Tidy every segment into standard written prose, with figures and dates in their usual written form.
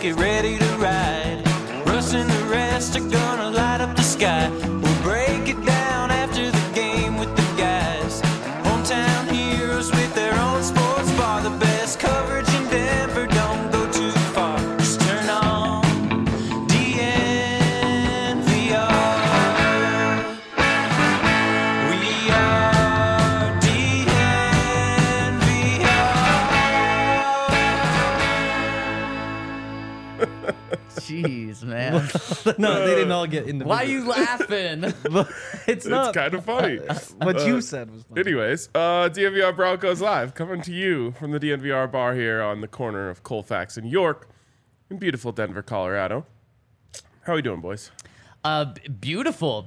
get ready to ride. Russ and the rest are gonna light up the sky. We'll break it down after the game with the guys. Hometown heroes with their own sports bar. The best coverage in Denver, don't go too far. Just turn on DNVR. We are DNVR. Jeez, man. No, they didn't all get individual. Why are you laughing? It's not. It's kind of funny. What you said was funny. Anyways, DNVR Broncos Live coming to you from the DNVR bar here on the corner of Colfax and York in beautiful Denver, Colorado. How are we doing, boys? Beautiful.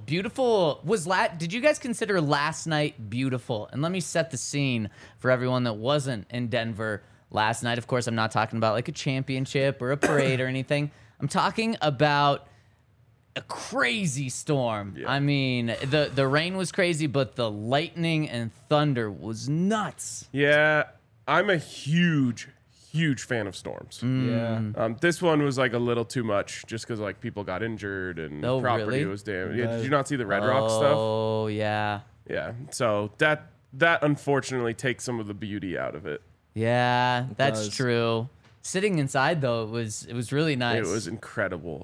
Did you guys consider last night beautiful? And let me set the scene for everyone that wasn't in Denver last night. Of course, I'm not talking about like a championship or a parade or anything. I'm talking about a crazy storm. Yeah. I mean, the rain was crazy, but the lightning and thunder was nuts. Yeah, I'm a huge fan of storms. Yeah. This one was like a little too much just because like people got injured and Oh, property really? was damaged. Yeah, did you not see the Red Rock stuff? Oh, yeah. Yeah, so that unfortunately takes some of the beauty out of it. Yeah, that's does. true. Sitting inside though, it was really nice. It was incredible.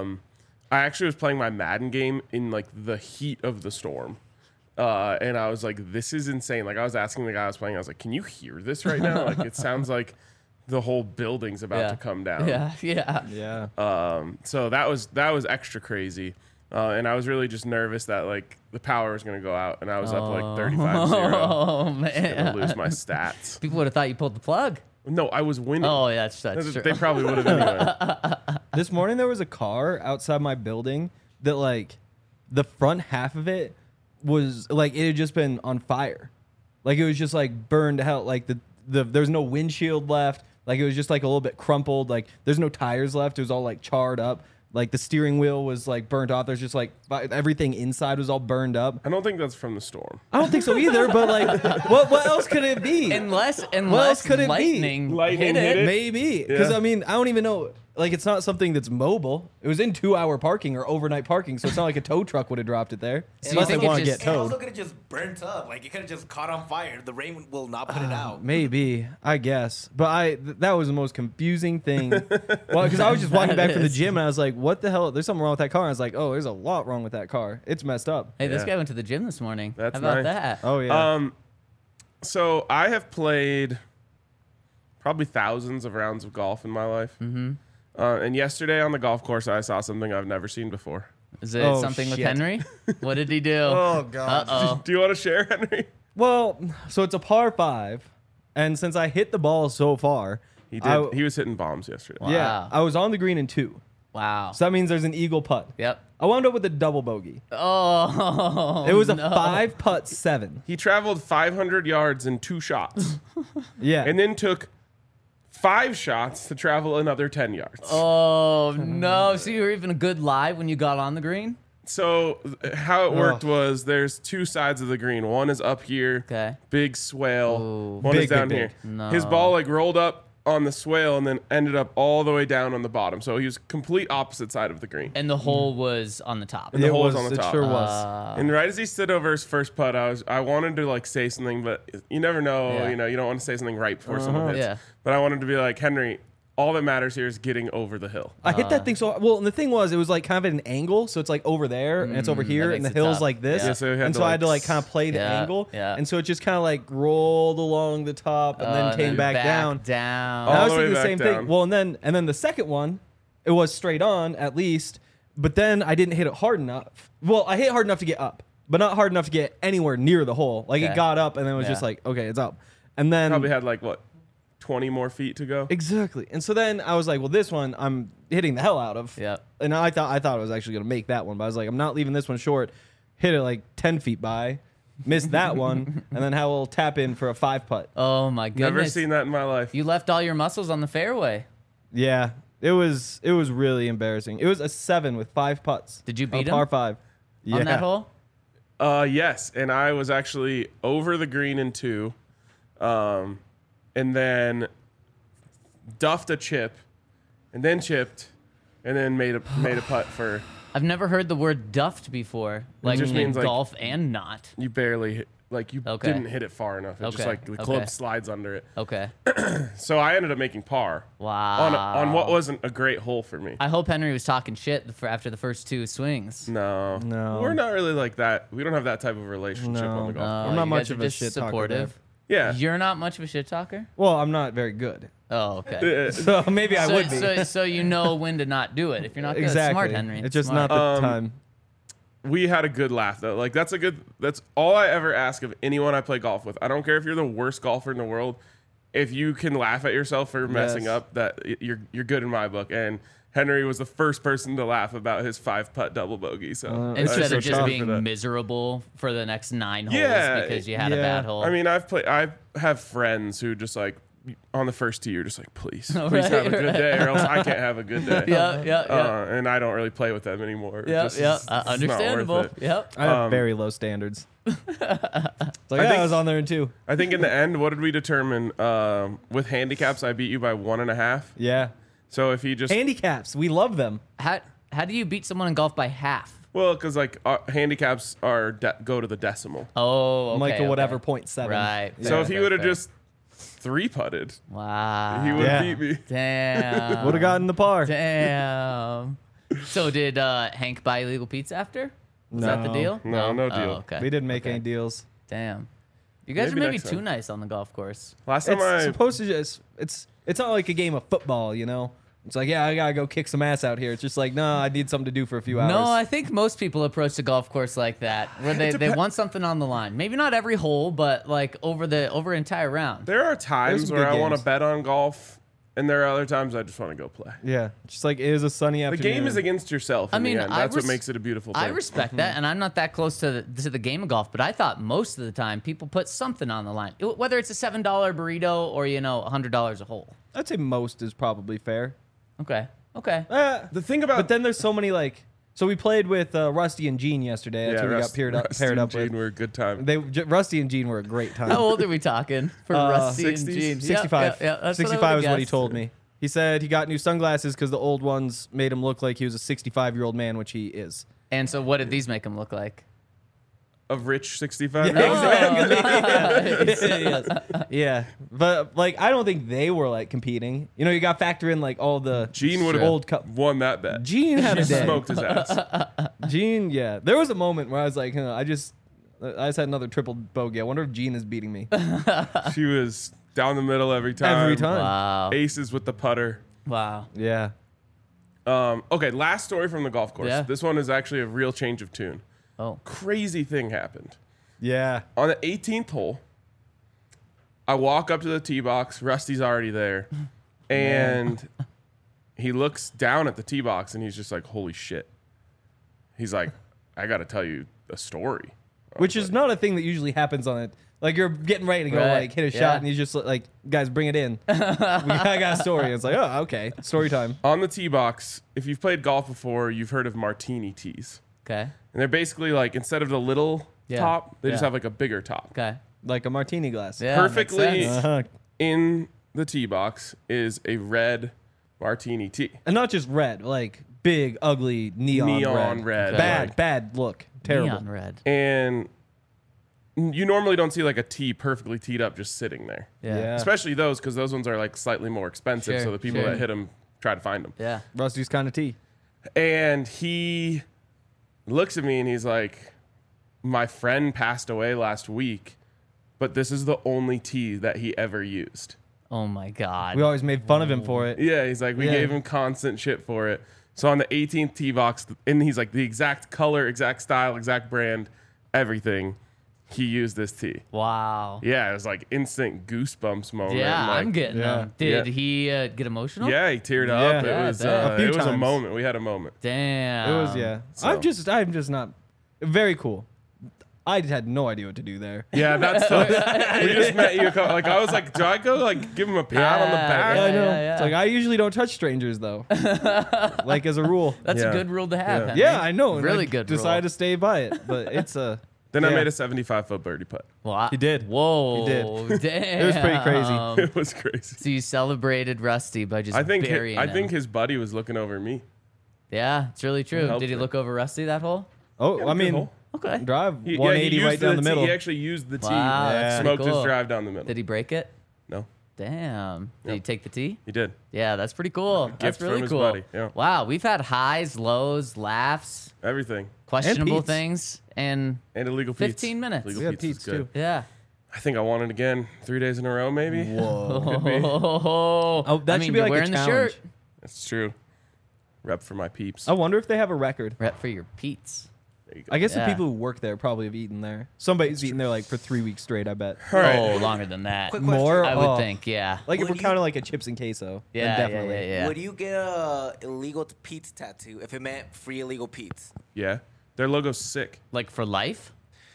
I actually was playing my Madden game in like the heat of the storm. And I was like, this is insane. Like I was asking the guy I was playing, I was like, can you hear this right now? Like it sounds like the whole building's about to come down. Yeah. Yeah. So that was extra crazy. And I was really just nervous that like the power was going to go out and I was up like 35-0. Oh Gonna man, lose my stats. people would have thought you pulled the plug. No, I was winning. Oh, yeah, that's true. They probably would have anyway. This morning there was a car outside my building that like the front half of it was like it had just been on fire. Like it was just like burned to hell. Like there's no windshield left. Like it was just like a little bit crumpled. Like there's no tires left. It was all like charred up. Like the steering wheel was like burnt off. There's just like everything inside was all burned up. I don't think that's from the storm. I don't think so either. But like, what else could it be? unless could it be? lightning, Lightning hit hit it. Maybe because Yeah. I mean I don't even know. Like it's not something that's mobile. It was in 2-hour parking or overnight parking, so it's not like a tow truck would have dropped it there. So you Unless they think it want to just- get It towed. also could have just burnt up. Like it could have just caught on fire. The rain will not put it out. Maybe, I guess. But that was the most confusing thing. Well, because I was just walking back from the is. gym and I was like, what the hell? There's something wrong with that car. And I was like, oh, there's a lot wrong with that car. It's messed up. Hey, this Yeah. guy went to the gym this morning. That's How about nice. that? Oh, yeah. So I have played probably thousands of rounds of golf in my life. Mm-hmm. And yesterday on the golf course, I saw something I've never seen before. Is it Oh, something with shit. Henry? What did he do? Oh, God. Uh-oh. Do you want to share, Henry? Well, so it's a par 5. And since I hit the ball so far, He did. He was hitting bombs yesterday. yeah, Wow. I was on the green in 2. Wow. So that means there's an eagle putt. Yep. I wound up with a double bogey. Oh, It was a no. 5 putt 7. He traveled 500 yards in 2 shots, Yeah. and then took 5 shots to travel another 10 yards. Oh, no. So you were even a good lie when you got on the green? So how it worked was there's 2 sides of the green. One is up here, Okay. big swale. Ooh. One Big, is down big, here. big. No. His ball like rolled up on the swale and then ended up all the way down on the bottom. So he was complete opposite side of the green. And the hole was on the top. And the It hole was was, on the it top. sure was. And right as he stood over his first putt, I wanted to like say something, but you never know. Yeah. You know, you don't want to say something right before someone hits. Yeah. But I wanted to be like, Henry, all that matters here is getting over the hill. I hit that thing so well, and the thing was, it was like kind of at an angle, so it's like over there and it's over here, that and the makes it hill's tough. like this, Yeah. Yeah, so you had and to, so I like, had to like kind of play the Yeah, angle, yeah. and so it just kind of like rolled along the top and then came back down. Down. And I All was the way thinking the back same down. thing. Well, and then the second one, it was straight on at least, but then I didn't hit it hard enough. Well, I hit hard enough to get up, but not hard enough to get anywhere near the hole. Like Okay. it got up, and then it was Yeah. just like, okay, it's up, and then Probably had like what, 20 more feet to go. exactly. And so then I was like, well, this one I'm hitting the hell out of. Yep. And I thought I was actually gonna make that one, but I was like, I'm not leaving this one short. Hit it like 10 feet by, missed that one, and then have a little tap in for a 5 putt. Oh, my goodness. Never seen that in my life. You left all your muscles on the fairway. Yeah, it was really embarrassing. It was a 7 with 5 putts. Did you A beat par him 5 on that hole? Yes, and I was actually over the green in 2, and then duffed a chip, and then chipped, and then made a putt for. I've never heard the word duffed before. Like just in means, like, golf and not. You barely hit, like you Okay. didn't hit it far enough. It just Okay. like the club Okay. slides under it. Okay. So I ended up making par Wow. on what wasn't a great hole for me. I hope Henry was talking shit after the first 2 swings. No, we're not really like that. We don't have that type of relationship on the golf course. I'm not You much guys of are a just shit talker supportive. Yeah. You're not much of a shit talker? Well, I'm not very good. Oh, okay. So maybe I would be. So you know when to not do it. If you're not good, exactly. smart, Henry. It's just Smart. not the time. We had a good laugh though. Like that's all I ever ask of anyone I play golf with. I don't care if you're the worst golfer in the world. If you can laugh at yourself for messing Yes. up, that you're good in my book. And Henry was the first person to laugh about his 5-putt double bogey. So I Instead was of just proud for being that. miserable for the next 9 holes Yeah, because you had a yeah. bad hole. I mean, I have friends who just like on the first tee, you're just like, please have a Right, good day, or else I can't have a good day. yeah. And I don't really play with them anymore. Yeah, Just- yeah. it's not worth Understandable. it. Yep. I have very low standards. It's like, think- I was on there in 2. I think in the end, what did we determine? With handicaps, I beat you by 1.5. Yeah. So if he just Handicaps, we love them. How do you beat someone in golf by half? well, because like handicaps are go to the decimal. Oh, okay, Michael, whatever, okay. 0.7. Right. Yeah. So if he fair, would have fair. just 3-putted, Wow. he would Yeah. have beat me. Damn. Would have gotten the par. Damn. So did Hank buy illegal pizza after? Was that the No. deal? No deal. Oh, okay. We didn't make any deals. Damn. You guys Maybe are maybe next too time. nice on the golf course. Last time It's I supposed to just it's not like a game of football, you know. It's like, yeah, I gotta go kick some ass out here. It's just like, no, I need something to do for a few hours. No, I think most people approach the golf course like that, where they want something on the line. Maybe not every hole, but like over an entire round. there are times some where good I want to games. bet on golf, and there are other times I just want to go play. Yeah, just like it is a sunny The afternoon. game is against yourself. I In mean, the end. I That's what res- makes it a beautiful thing. I respect that, and I'm not that close to the game of golf, but I thought most of the time people put something on the line, whether it's a $7 burrito or $100 a hole. I'd say most is probably fair. Okay. Okay. The thing about But then there's so many like. So we played with Rusty and Gene yesterday. That's who we got paired up Rusty and with. Gene were a good time. Rusty and Gene were a great time. How old are we talking for Rusty 60s? and Gene? 65. Yeah, that's 65 what I is would've what he guessed. told me. He said he got new sunglasses because the old ones made him look like he was a 65-year-old man, which he is. And so, what did these make him look like? A rich 65 Yeah, year old. Yes. Yeah, but like I don't think they were like competing. You know, you got to factor in like all the Gene would have old cup. won that bet. Gene had a day. Smoked his ass. Gene, yeah. There was a moment where I was like, I just had another triple bogey. I wonder if Gene is beating me She was down the middle every time. every time. Wow. Aces with the putter. Wow. Yeah. Okay, last story from the golf course. Yeah. This one is actually a real change of tune. Oh. Crazy thing happened. Yeah. On the 18th hole, I walk up to the tee box. Rusty's already there. And he looks down at the tee box and he's just like, holy shit. He's like, I got to tell you a story. Which is not a thing that usually happens on it. Like you're getting ready to go Right. like hit a Yeah. shot and he's just like, guys, bring it in. I got a story. It's like, oh, okay, story time. On the tee box, if you've played golf before, you've heard of martini tees. Okay. And they're basically like, instead of the little Yeah. top, they just Yeah. have like a bigger top. Okay. Like a martini glass. Yeah. makes Perfectly sense. Uh-huh. in the tee box is a red martini tee. And not just red, like big, ugly neon red. Okay. Bad, like- bad look. Terrible. Neon red. And you normally don't see like a tee perfectly teed up just sitting there. Yeah. Yeah. Especially those, because those ones are like slightly more expensive. Sure, So the people sure. that hit them try to find them. Yeah. Rusty's kind of tea. And he looks at me and he's like, my friend passed away last week, but this is the only tee that he ever used. Oh my God. We always made fun of him for it. Yeah, he's like, we Yeah. gave him constant shit for it. So on the 18th tee box, and he's like, the exact color, exact style, exact brand, everything, he used this tee. Wow. Yeah, it was like instant goosebumps moment. Yeah, like, I'm getting yeah. them. Did Yeah. he get emotional? Yeah, he teared Yeah. up. Yeah, It was, I bet. A few it was a times. moment. We had a moment. Damn. It was, yeah. So- I'm just not. Very cool. I had no idea what to do there. Yeah, that's tough. We just met you. Like I was like, do I go like give him a pat on the Yeah, back? yeah, I know. yeah. It's like I usually don't touch strangers though. Like as a rule. That's Yeah. a good rule to have. Yeah. Henry. Yeah, I know. and Really I good Decided rule. to stay by it, but it's a. Then I Yeah. made a 75-foot birdie putt. Wow. He did. Whoa. He did. Damn. It was pretty crazy. It was crazy. So you celebrated Rusty by just burying him. I think his buddy was looking over me. Yeah, it's really true. helped Did he her. look over Rusty that hole? Oh, I good mean, hole. Okay. drive He 180 used right down the tee. middle. He actually used the tee. Wow, that's Smoked pretty cool. his drive down the middle. Did he break it? No, Damn. Did he take the tee? he did. Yeah, that's pretty cool. That's gift from really his cool. buddy, yeah. Wow, we've had highs, lows, laughs, Everything. questionable Pete's. things, and And illegal Pete's. 15 minutes. Illegal We had Pete's is Pete's, good. too. yeah. I think I won it again 3 days in a row, maybe. Whoa. Oh, that should be you're like a wearing the challenge. shirt. That's true. Rep for my peeps. I wonder if they have a record. Rep for your Pete's. There you go. I guess Yeah. the people who work there probably have eaten there. Somebody's eaten there like for 3 weeks straight, I bet. All right. Oh, longer than that. Quick More? question. I would Oh. think, yeah. Like if Would we're you- counting like a chips and queso, then Yeah, definitely. yeah. Would you get a illegal Pete's tattoo if it meant free illegal Pete's? Yeah. Their logo's sick. Like for life?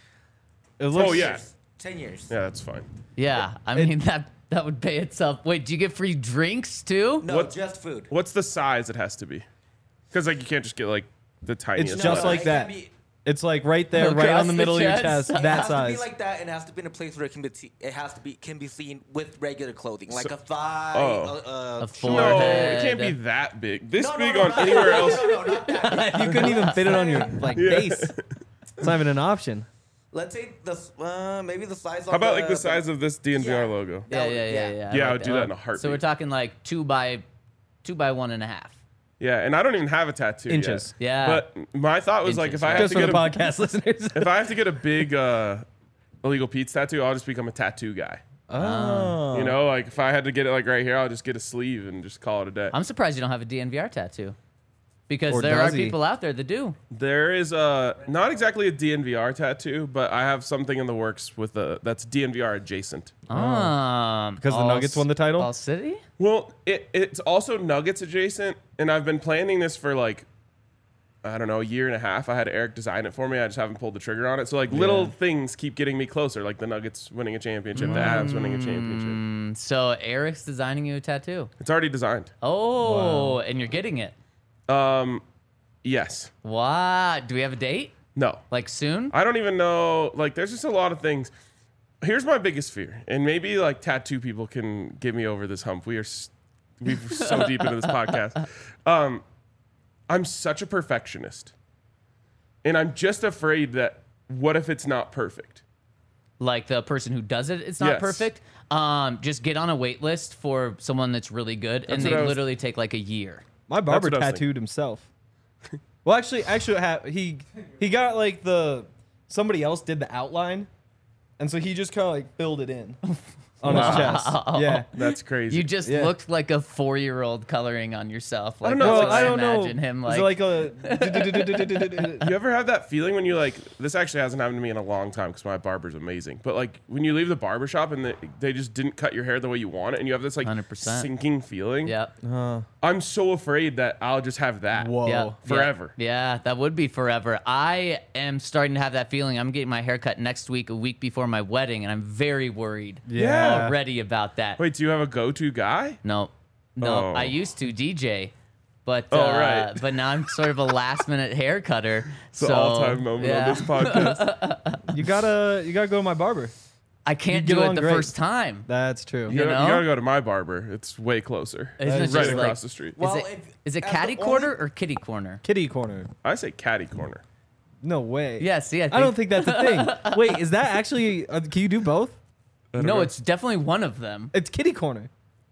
It looks, Oh, yeah. 10 years. Yeah, that's fine. Yeah. I mean, that would pay itself. Wait, do you get free drinks too? No, What- just food. What's the size it has to be? Because like you can't just get like the tiniest. It's just one. like it that. can't be- It's like right there, right Across on the the middle of your chest. chest, It It that has to size. be like that, and it has to be in a place where it can be. It has to be can be seen with regular clothing, like So- a thigh. Oh. A No, forehead. it can't be that big. This No, big no, on not anywhere that. else. No, not that. You couldn't even fit it on your like Yeah. face. It's not even an option. Let's say maybe the size. How about like the size of this DNVR Yeah. logo? Yeah. Yeah, I like would do that in a So heartbeat. we're talking like 2 by 1.5. Yeah, and I don't even have a tattoo Inches. yet. Yeah. But my thought was like Inches, if I yeah. have Just to for get the a podcast listeners. if I have to get a big illegal Pete's tattoo, I'll just become a tattoo guy. Oh. You know, like if I had to get it like right here, I'll just get a sleeve and just call it a day. I'm surprised you don't have a DNVR tattoo. Because Or there are does he? people out there that do. There is not exactly a DNVR tattoo, but I have something in the works with that's DNVR adjacent. Because the All Nuggets won the title? All City? Well, it's also Nuggets adjacent, and I've been planning this for like, I don't know, a year and a half. I had Eric design it for me. I just haven't pulled the trigger on it. So like little things keep getting me closer, like the Nuggets winning a championship, the Avs winning a championship. So Eric's designing you a tattoo. It's already designed. Oh, and you're getting it. Yes. Wow. Do we have a date? No. Like soon? I don't even know. Like, there's just a lot of things. Here's my biggest fear, and maybe like tattoo people can get me over this hump. We're so deep into this podcast. I'm such a perfectionist, and I'm just afraid that what if it's not perfect? Like the person who does it, it's not Yes. perfect. Just get on a wait list for someone that's really good, and That's they what I was- literally take like a year. My barber what I was thinking. tattooed himself. Well, actually, he got like somebody else did the outline, and so he just kind of like filled it in on his chest. Yeah. That's crazy. You just Yeah. looked like a 4-year-old coloring on yourself. Like, don't know, that's Well, what I don't know. imagine him Is like. it like a You ever have that feeling when you like, this actually hasn't happened to me in a long time because my barber's amazing, but like when you leave the barber shop and they just didn't cut your hair the way you want it and you have this like 100%. sinking feeling. Yep. I'm so afraid that I'll just have that. Whoa. Yeah, Forever. Yeah, that would be forever. I am starting to have that feeling. I'm getting my hair cut next week, a week before my wedding, and I'm very worried Yeah. already about that. Wait, do you have a go-to guy? No, Oh. I used to DJ, but Oh, right. but now I'm sort of a last minute hair cutter. It's the all-time moment on this podcast. You gotta go to my barber. I can't You get do it on the great. first time. That's true. You know? gotta go to my barber. It's way closer. Isn't it right just across like- the street. Well, is it as catty the corner only- or kitty corner? Kitty corner. I say catty corner. No way. Yeah, see, I don't think that's a thing. Wait, is that actually? Can you do both? don't No, know. it's definitely one of them. It's kitty corner.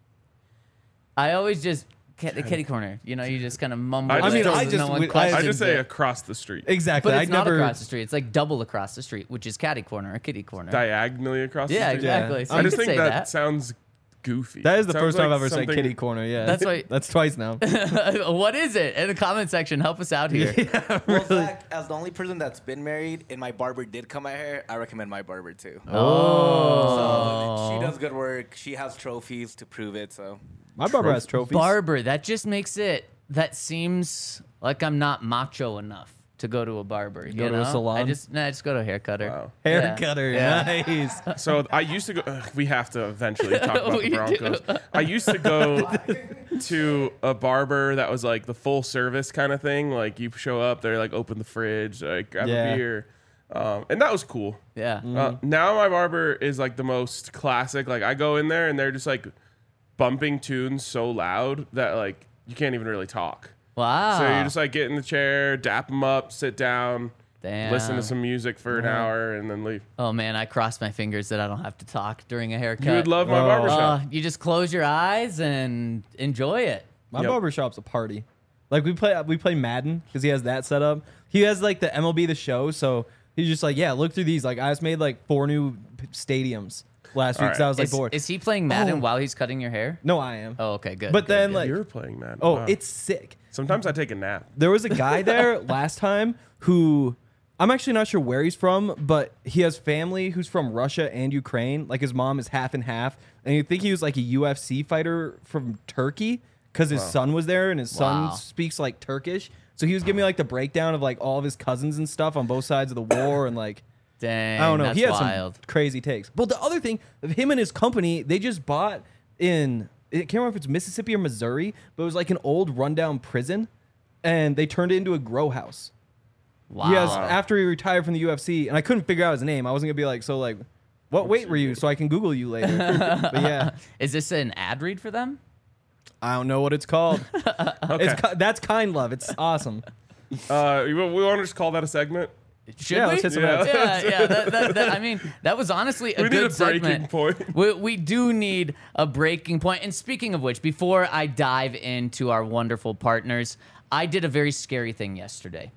I always just the kitty corner. You know, you just kind of mumble. I it mean, so I no just one would- questions I just say it. across the street. Exactly. But it's I not never. across the street. It's like double across the street, which is catty corner or kitty corner. Diagonally across Yeah, the street. exactly. So I you just could think say that, that. sounds goofy. That is the Sounds first time like I've ever said something- kitty corner. Yeah. That's why- That's twice now. What is it? In the comment section, help us out here. Well, Zach, as the only person that's been married and my barber did cut my hair, I recommend my barber too. Oh. So she does good work. She has trophies to prove it. So My barber has trophies. Barber, that just makes it, that seems like I'm not macho enough to go to a barber. You go to a know? salon? I just go to a hair cutter. Wow. Hair Yeah. cutter. Yeah. Nice. So I used to go. We have to eventually talk about We the Broncos. I used to go to a barber that was like the full service kind of thing. Like you show up, they're like open the fridge, like grab Yeah. a beer. And that was cool. Yeah. Now my barber is like the most classic. Like I go in there and they're just like bumping tunes so loud that like you can't even really talk. Wow. So you just like get in the chair, dap them up, sit down, Damn. listen to some music for an hour, and then leave. Oh man, I cross my fingers that I don't have to talk during a haircut. You would love my barbershop. You just close your eyes and enjoy it. My Yep. barbershop's a party. Like we play Madden because he has that set up. He has like the MLB The Show, so he's just like, yeah, look through these. Like I just made like 4 new stadiums last week, All so I right. was like bored. Is he playing Madden Oh. while he's cutting your hair? No, I am. Oh, okay, good. But good, then good. like, You're playing, man. oh, Wow. it's sick. Sometimes I take a nap. There was a guy there last time who I'm actually not sure where he's from, but he has family who's from Russia and Ukraine. Like his mom is half and half, and you think he was like a UFC fighter from Turkey because his son was there and his son Wow. speaks like Turkish. So he was giving me like the breakdown of like all of his cousins and stuff on both sides of the war and like. Dang, I don't know. that's He had wild. some crazy takes. But the other thing, him and his company, they just bought in, I can't remember if it's Mississippi or Missouri, but it was like an old rundown prison, and they turned it into a grow house. Wow. Yes, after he retired from the UFC, and I couldn't figure out his name. I wasn't gonna be like, so like, what weight were you? So I can Google you later. But yeah, Is this an ad read for them? I don't know what it's called. Okay. That's Kind Love. It's awesome. We want to just call that a segment. Should Yeah, we? let's hit some yeah, ads. yeah. That, I mean, that was honestly a We need good a breaking segment. point. We do need a breaking point. And speaking of which, before I dive into our wonderful partners, I did a very scary thing yesterday.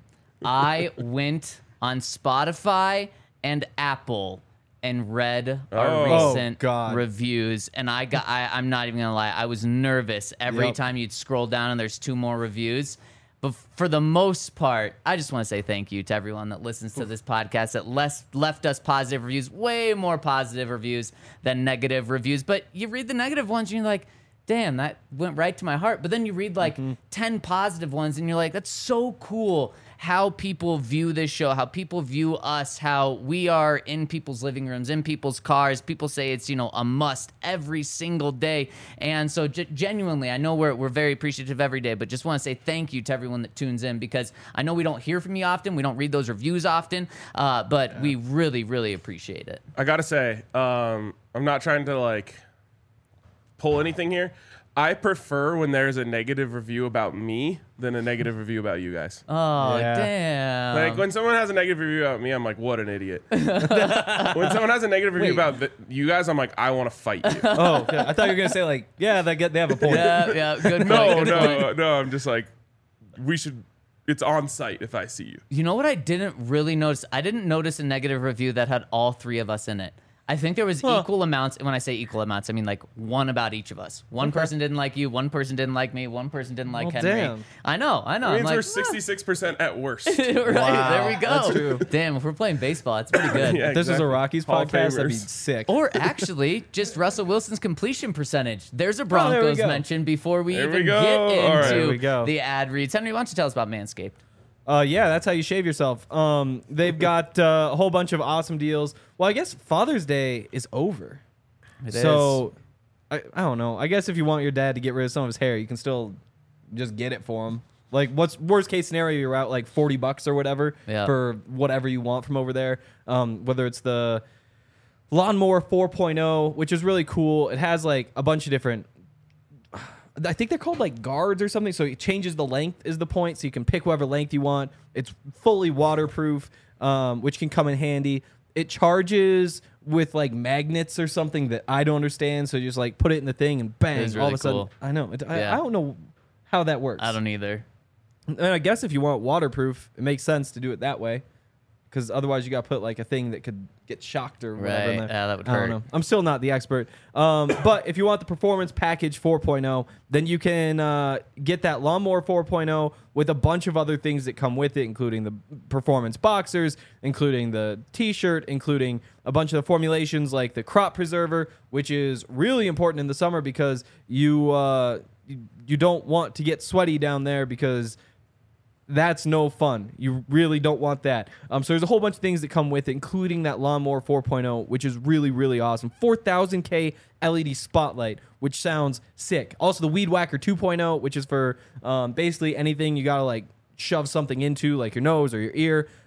I went on Spotify and Apple and read our Oh. recent God. reviews, and I'm not even gonna lie, I was nervous every Yep. time you'd scroll down and there's 2 more reviews. But for the most part, I just want to say thank you to everyone that listens to this podcast that left us positive reviews, way more positive reviews than negative reviews. But you read the negative ones and you're like, damn, that went right to my heart. But then you read like 10 positive ones and you're like, that's so cool how people view this show, how people view us, how we are in people's living rooms, in people's cars. People say it's, a must every single day. And so genuinely, I know we're very appreciative every day, but just want to say thank you to everyone that tunes in, because I know we don't hear from you often. We don't read those reviews often, but we really, really appreciate it. I gotta say, I'm not trying to like pull anything here. I prefer when there's a negative review about me than a negative review about you guys. Oh, Yeah. damn. Like when someone has a negative review about me, I'm like, what an idiot. When someone has a negative review Wait. about you guys, I'm like, I want to fight you. Oh, okay. I thought you were gonna say like, yeah, they have a point. Yeah, good point. No, good point. no. I'm just like, we should. It's on site if I see you. You know what I didn't really notice? I didn't notice a negative review that had all 3 of us in it. I think there was equal amounts. And when I say equal amounts, I mean like 1 about each of us. One person didn't like you. 1 person didn't like me. 1 person didn't like Well, Henry. damn. I know. It I'm means like, we're 66% at worst. right, there we go. That's true. Damn, if we're playing baseball, it's pretty good. Yeah, If this was a exactly. Rockies Hall of podcast, that'd be Famers. sick. Or actually, just Russell Wilson's completion percentage. There's a there we Broncos go. mention before we There we even go. get All right, into there we go. the ad reads. Henry, why don't you tell us about Manscaped? Yeah, that's how you shave yourself. They've got a whole bunch of awesome deals. Well, I guess Father's Day is over. It So, I don't know. I guess if you want your dad to get rid of some of his hair, you can still just get it for him. Like, what's worst case scenario? You're out like $40 or whatever Yeah. for whatever you want from over there. Whether it's the Lawnmower 4.0, which is really cool. It has like a bunch of different. I think they're called like guards or something. So it changes the length is the point. So you can pick whatever length you want. It's fully waterproof, which can come in handy. It charges with like magnets or something that I don't understand. So you just like put it in the thing and It bang, is all of really a sudden. cool. I know. Yeah. I don't know how that works. I don't either. And I guess if you want waterproof, it makes sense to do it that way. Because otherwise you got to put like a thing that could get shocked or whatever. in Right. there. Yeah, that would I don't hurt. know. I'm still not the expert. But if you want the Performance Package 4.0, then you can get that Lawnmower 4.0 with a bunch of other things that come with it, including the Performance Boxers, including the T-shirt, including a bunch of the formulations like the Crop Preserver, which is really important in the summer because you don't want to get sweaty down there because that's no fun. You really don't want that. So there's a whole bunch of things that come with it, including that Lawnmower 4.0, which is really, really awesome. 4000K LED spotlight, which sounds sick. Also, the Weed Whacker 2.0, which is for basically anything you got to like shove something into, like your nose or your ear.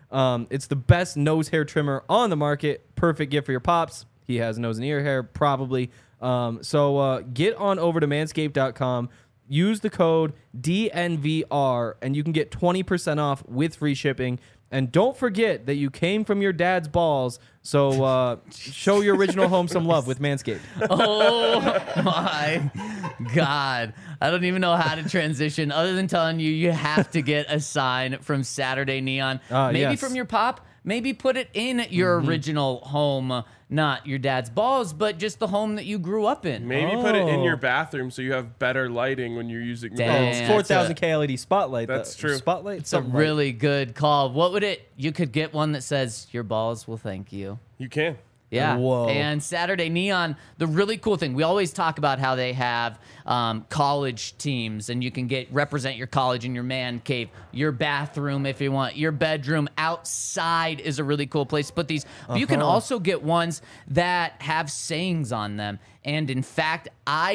It's the best nose hair trimmer on the market. Perfect gift for your pops. He has nose and ear hair, probably. So get on over to manscaped.com. Use the code DNVR, and you can get 20% off with free shipping. And don't forget that you came from your dad's balls, so show your original home some love with Manscaped. Oh my God. I don't even know how to transition other than telling you have to get a sign from Saturday Neon. Maybe yes. from your pop. Maybe put it in your original home, not your dad's balls, but just the home that you grew up in. Maybe put it in your bathroom so you have better lighting when you're using the Damn. It's Yeah, 4,000K LED spotlight. That's though. true. Spotlight. It's a really good call. What would it? You could get one that says your balls will thank you. You can. Yeah. Whoa. And Saturday Neon, the really cool thing, we always talk about how they have college teams, and you can represent your college in your man cave, your bathroom if you want, your bedroom. Outside is a really cool place to put these. But you can also get ones that have sayings on them. And in fact,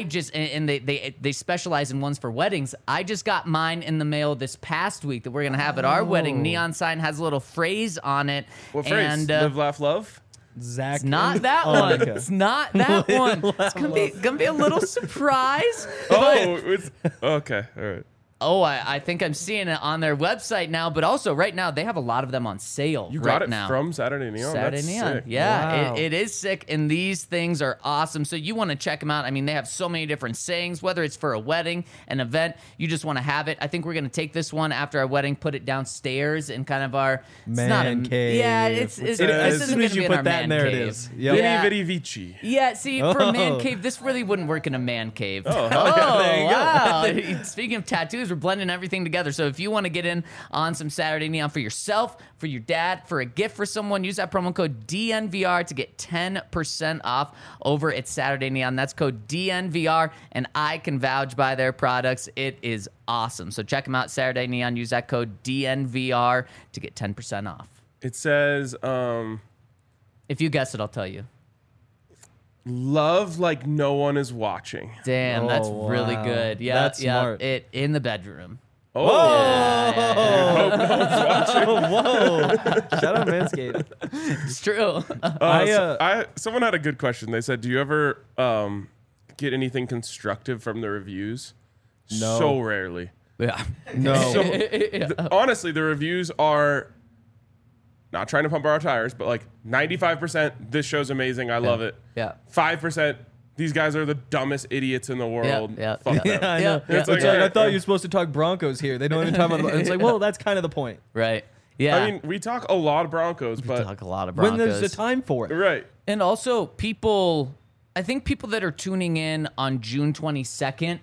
they specialize in ones for weddings. I just got mine in the mail this past week that we're going to have at our wedding. Neon sign has a little phrase on it. What phrase? And, Live, laugh, love? Zach. it's not that one. It's not that one. It's gonna be a little surprise. Oh, it's okay. All right. Oh, I think I'm seeing it on their website now, but also right now they have a lot of them on sale. You right got it now. from Saturday Neon. Saturday That's Neon. sick. Yeah, Wow. it is sick, and these things are awesome. So you want to check them out. I mean, they have so many different sayings, whether it's for a wedding, an event, you just want to have it. I think we're going to take this one after our wedding, put it downstairs in kind of our Man cave. Yeah, it's As this soon isn't as gonna you be in put our that in man there, it cave. is. Yep. Yeah. Vidi Vidi Vici. Yeah, see, for a man Oh. cave, this really wouldn't work in a man cave. Oh, there you go. wow. Speaking of tattoos, we're blending everything together. So if you want to get in on some Saturday Neon for yourself, for your dad, for a gift for someone, use that promo code DNVR to get 10% off over at Saturday Neon. That's code DNVR, and I can vouch by their products. It is awesome. So check them out, Saturday Neon. Use that code DNVR to get 10% off. It says, If you guess it, I'll tell you. love like no one is watching. Damn, that's Oh, really wow. good. Yeah, That's yeah. smart. It in the bedroom. Oh, Whoa. Shout out Manscaped. It's true. someone had a good question. They said, do you ever get anything constructive from the reviews? No. So rarely. Yeah. No. Honestly, the reviews are not trying to pump our tires, but like 95%, this show's amazing. I love it. Yeah. 5%, these guys are the dumbest idiots in the world. yeah, Fuck yeah. them. I know. Yeah. It's like, Yeah. I thought you were supposed to talk Broncos here. They don't even talk about it's like, well, that's kind of the point. Right. Yeah. I mean, we talk a lot of Broncos, but talk a lot of When Broncos. there's a time for it. right. And also, I think people that are tuning in on June 22nd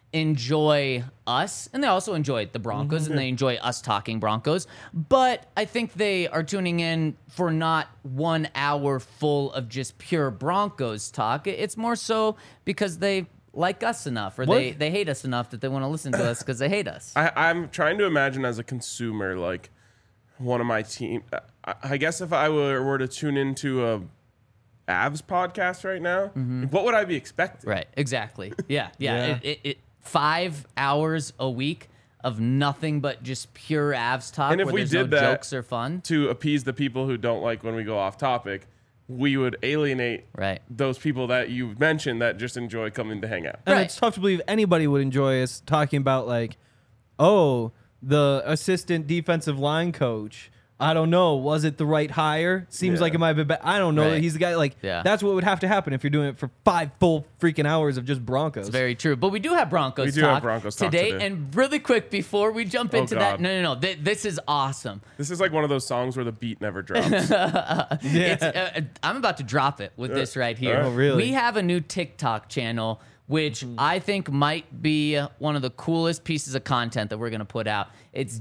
enjoy us, and they also enjoy the Broncos, and they enjoy us talking Broncos. But I think they are tuning in for not 1 hour full of just pure Broncos talk. It's more so because they like us enough, or they hate us enough that they want to listen to us because they hate us. I'm trying to imagine as a consumer, like one of my team. I guess if I were to tune into a Avs podcast right now, what would I be expecting? Right, exactly. Yeah. Yeah. It 5 hours a week of nothing but just pure Avs talk, And if where we there's did no that- jokes or fun. To appease the people who don't like when we go off topic, we would alienate Right. those people that you mentioned that just enjoy coming to hang out. And Right. it's tough to believe anybody would enjoy us talking about, like, oh, the assistant defensive line coach. I don't know. Was it the right hire? Seems Yeah. like it might have been. I don't know. Right. He's the guy. Like, Yeah. that's what would have to happen if you're doing it for 5 full freaking hours of just Broncos. Very true. But we do have Broncos We do talk have Broncos talk today. today. And really quick, before we jump into that, God. no. This is awesome. This is like one of those songs where the beat never drops. It's, I'm about to drop it with this right here. Oh, really? We have a new TikTok channel, which I think might be one of the coolest pieces of content that we're going to put out. It's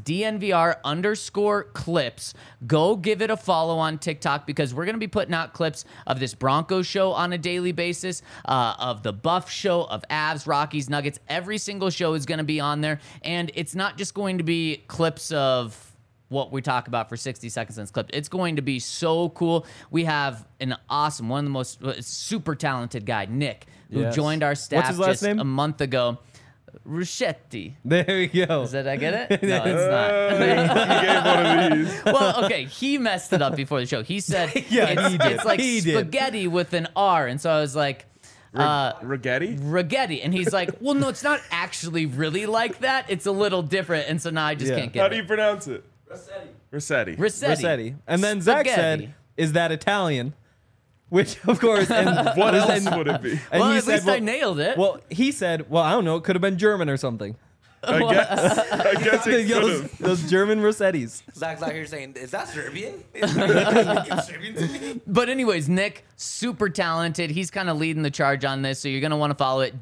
DNVR_clips. Go give it a follow on TikTok because we're going to be putting out clips of this Broncos show on a daily basis, of the Buff show, of Avs, Rockies, Nuggets. Every single show is going to be on there. And it's not just going to be clips of what we talk about for 60 seconds in this clip. It's going to be so cool. We have one of the most super talented guy, Nick, who Yes. joined our staff What's his last just name? a month ago. Ruschetti. There we go. Did I get it? No, it's not. He gave one of these. Well, okay, he messed it up before the show. He said Yeah, he did. it's like He did. spaghetti with an R, and so I was like, Rigetti? Ragetti, and he's like, well, no, it's not actually really like that. It's a little different, and so now I just Yeah. can't get How it. do you pronounce it? Rossetti. Rossetti. And then Zach Spaghetti. said, "Is that Italian?" Which, of course, and What else would it be? and Well, you at said, least I nailed it. Well, he said, "Well, I don't know. It could have been German or something." I guess it could have. those German Rossettis. Zach's out here saying, "Is that Serbian?" It's Serbian to me. But anyways, Nick, super talented. He's kind of leading the charge on this, so you're going to want to follow it.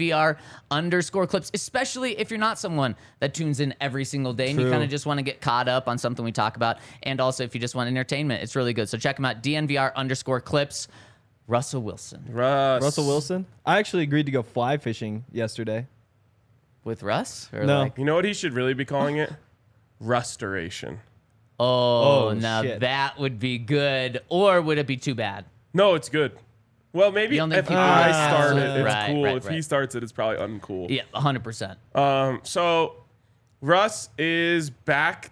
DNVR_clips, especially if you're not someone that tunes in every single day and you True. kind of just want to get caught up on something we talk about. And also, if you just want entertainment, it's really good. So check him out, DNVR_clips. Russell Wilson. Russell Wilson. I actually agreed to go fly fishing yesterday. With Russ? Or No. like- You know what he should really be calling it? Restoration. oh, Oh, now shit. that would be good. Or would it be too bad? No, it's good. Well, maybe You don't think if people I would start it, absolutely- it's Right, cool. right, If he right. starts it, it's probably uncool. Yeah, 100%. So Russ is back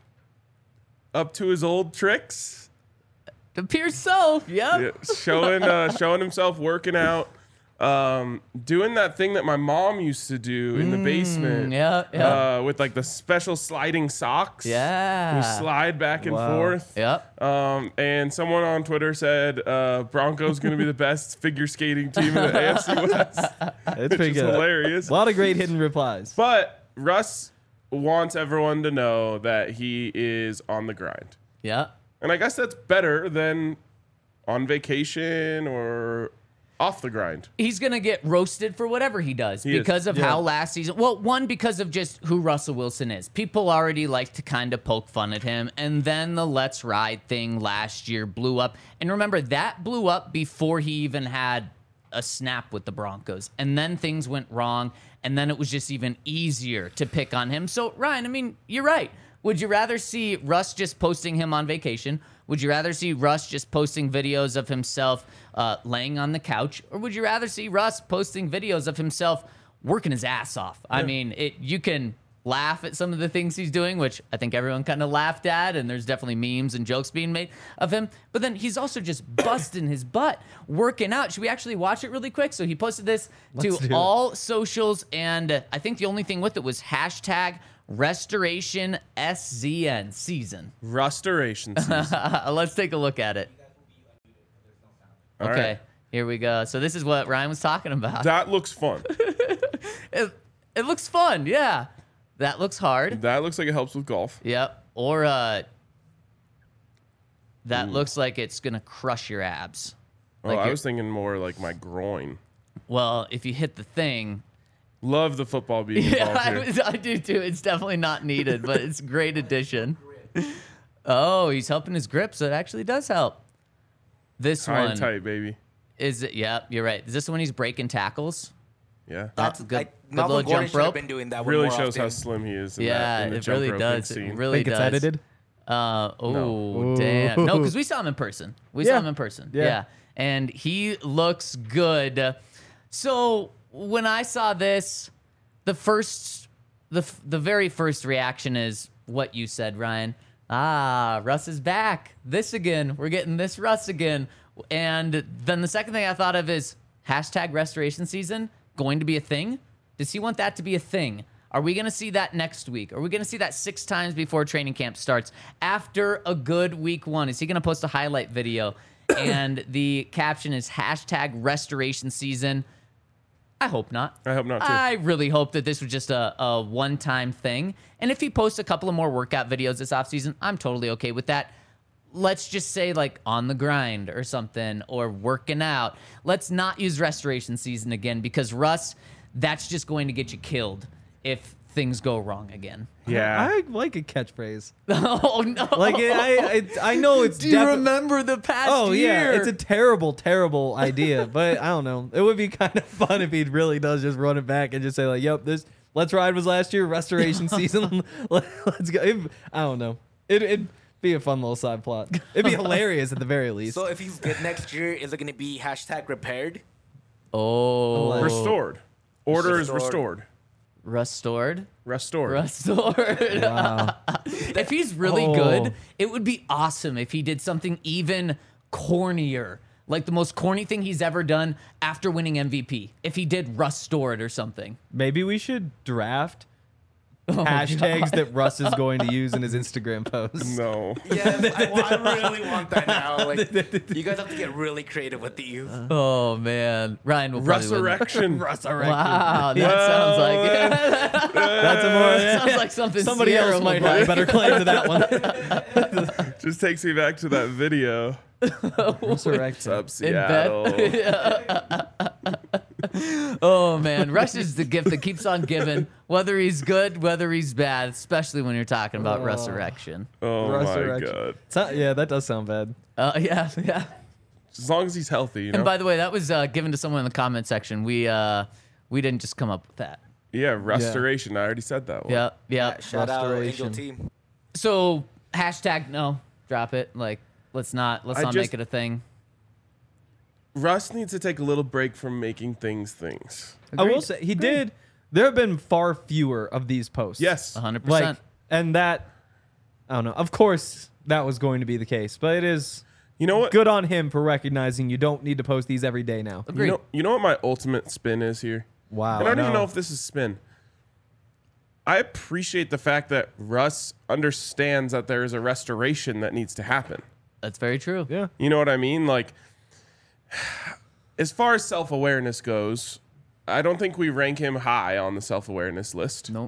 up to his old tricks. It appears so. Yep. Yeah, showing himself working out. Doing that thing that my mom used to do in the basement. Yeah. With like the special sliding socks. Yeah. You slide back and Wow. forth. Yep. And someone on Twitter said Broncos going to be the best figure skating team in the AFC West. It's pretty Which is good. hilarious. A lot of great hidden replies. But Russ wants everyone to know that he is on the grind. Yeah. And I guess that's better than on vacation or off the grind. He's going to get roasted for whatever he does He is. because of Yeah. how last season. Well, one, because of just who Russell Wilson is. People already like to kind of poke fun at him. And then the Let's Ride thing last year blew up. And remember, that blew up before he even had a snap with the Broncos. And then things went wrong. And then it was just even easier to pick on him. So, Ryan, I mean, you're right. Would you rather see Russ just posting him on vacation? Would you rather see Russ just posting videos of himself laying on the couch? Or would you rather see Russ posting videos of himself working his ass off? I mean, you can laugh at some of the things he's doing, which I think everyone kind of laughed at, and there's definitely memes and jokes being made of him. But then he's also just busting his butt working out. Should we actually watch it really quick? So he posted this Let's do to it. all socials, and I think the only thing with it was hashtag Restoration SZN season. Restoration season. Let's take a look at it. All Okay, right. here we go. So this is what Ryan was talking about. That looks fun. It looks fun, yeah. That looks hard. That looks like it helps with golf. Yep. Or that looks like it's gonna crush your abs. Oh, Like I you're- was thinking more like my groin. Well, if you hit the thing, Love the football being involved here. I do too. It's definitely not needed, but it's a great addition. Oh, he's helping his grip, so it actually does help. This High one and tight, baby. is it? Yeah, you're right. Is this the one he's breaking tackles? Yeah. That's good. Good Malcolm little Gordon jump should have rope. been doing that one Really more shows how often. slim he is. In Yeah, that, in the it jump really rope does. scene. It really Think it's does. edited? Oh, damn. No, because we saw him in person. We saw Yeah. him in person. Yeah. Yeah. And he looks good. So when I saw this, the very first reaction is what you said, Ryan. Ah, Russ is back. This again. We're getting this Russ again. And then the second thing I thought of is hashtag restoration season going to be a thing. Does he want that to be a thing? Are we going to see that next week? Are we going to see that 6 times before training camp starts? After a good week 1, is he going to post a highlight video? And the caption is hashtag restoration season. I hope not. I hope not, too. I really hope that this was just a one-time thing. And if he posts a couple of more workout videos this offseason, I'm totally okay with that. Let's just say like on the grind or something, or working out. Let's not use restoration season again, because Russ, that's just going to get you killed if things go wrong again. Yeah. I like a catchphrase. Oh no! Like I know it's. Do you remember the past Oh year? yeah, it's a terrible idea. But I don't know. It would be kind of fun if he really does just run it back and just say like, "Yep, this Let's Ride was last year. Restoration season. Let's go." I don't know. It'd be a fun little side plot. It'd be hilarious at the very least. So if he's good next year, is it going to be hashtag repaired? Oh, Restored. Order is Restored. restored. Restored. Wow. If he's really good, it would be awesome if he did something even cornier. Like the most corny thing he's ever done after winning MVP. If he did Restored or something. Maybe we should draft hashtags that Russ is going to use in his Instagram posts. No. Yes, I really want that now. Like, you guys have to get really creative with these. Oh man, Ryan will probably win. Resurrection. Wow, that sounds like That's a more. sounds like something Somebody Sierra else would might play. have a better claim to that one. Just takes me back to that video. Resurrection. Up In bed. Seattle. Oh man, Russ is the gift that keeps on giving, whether he's good, whether he's bad, especially when you're talking about resurrection. Oh my Resurrection. god. Yeah, that does sound bad. Yeah. As long as he's healthy, you know. And by the way, that was given to someone in the comment section. We didn't just come up with that. Yeah, restoration. I already said that one. Yeah. Shout out Angel Restoration. Team. So hashtag no, drop it. Like let's not just- make it a thing. Russ needs to take a little break from making things. I will say he did. There have been far fewer of these posts. Yes. 100%. Like, and that, I don't know. Of course, that was going to be the case, but it is You know what? good on him for recognizing you don't need to post these every day now. Agreed. You know what my ultimate spin is here? Wow. And I don't even know if this is spin. I appreciate the fact that Russ understands that there is a restoration that needs to happen. That's very true. Yeah. You know what I mean? Like, as far as self-awareness goes, I don't think we rank him high on the self-awareness list. Nope.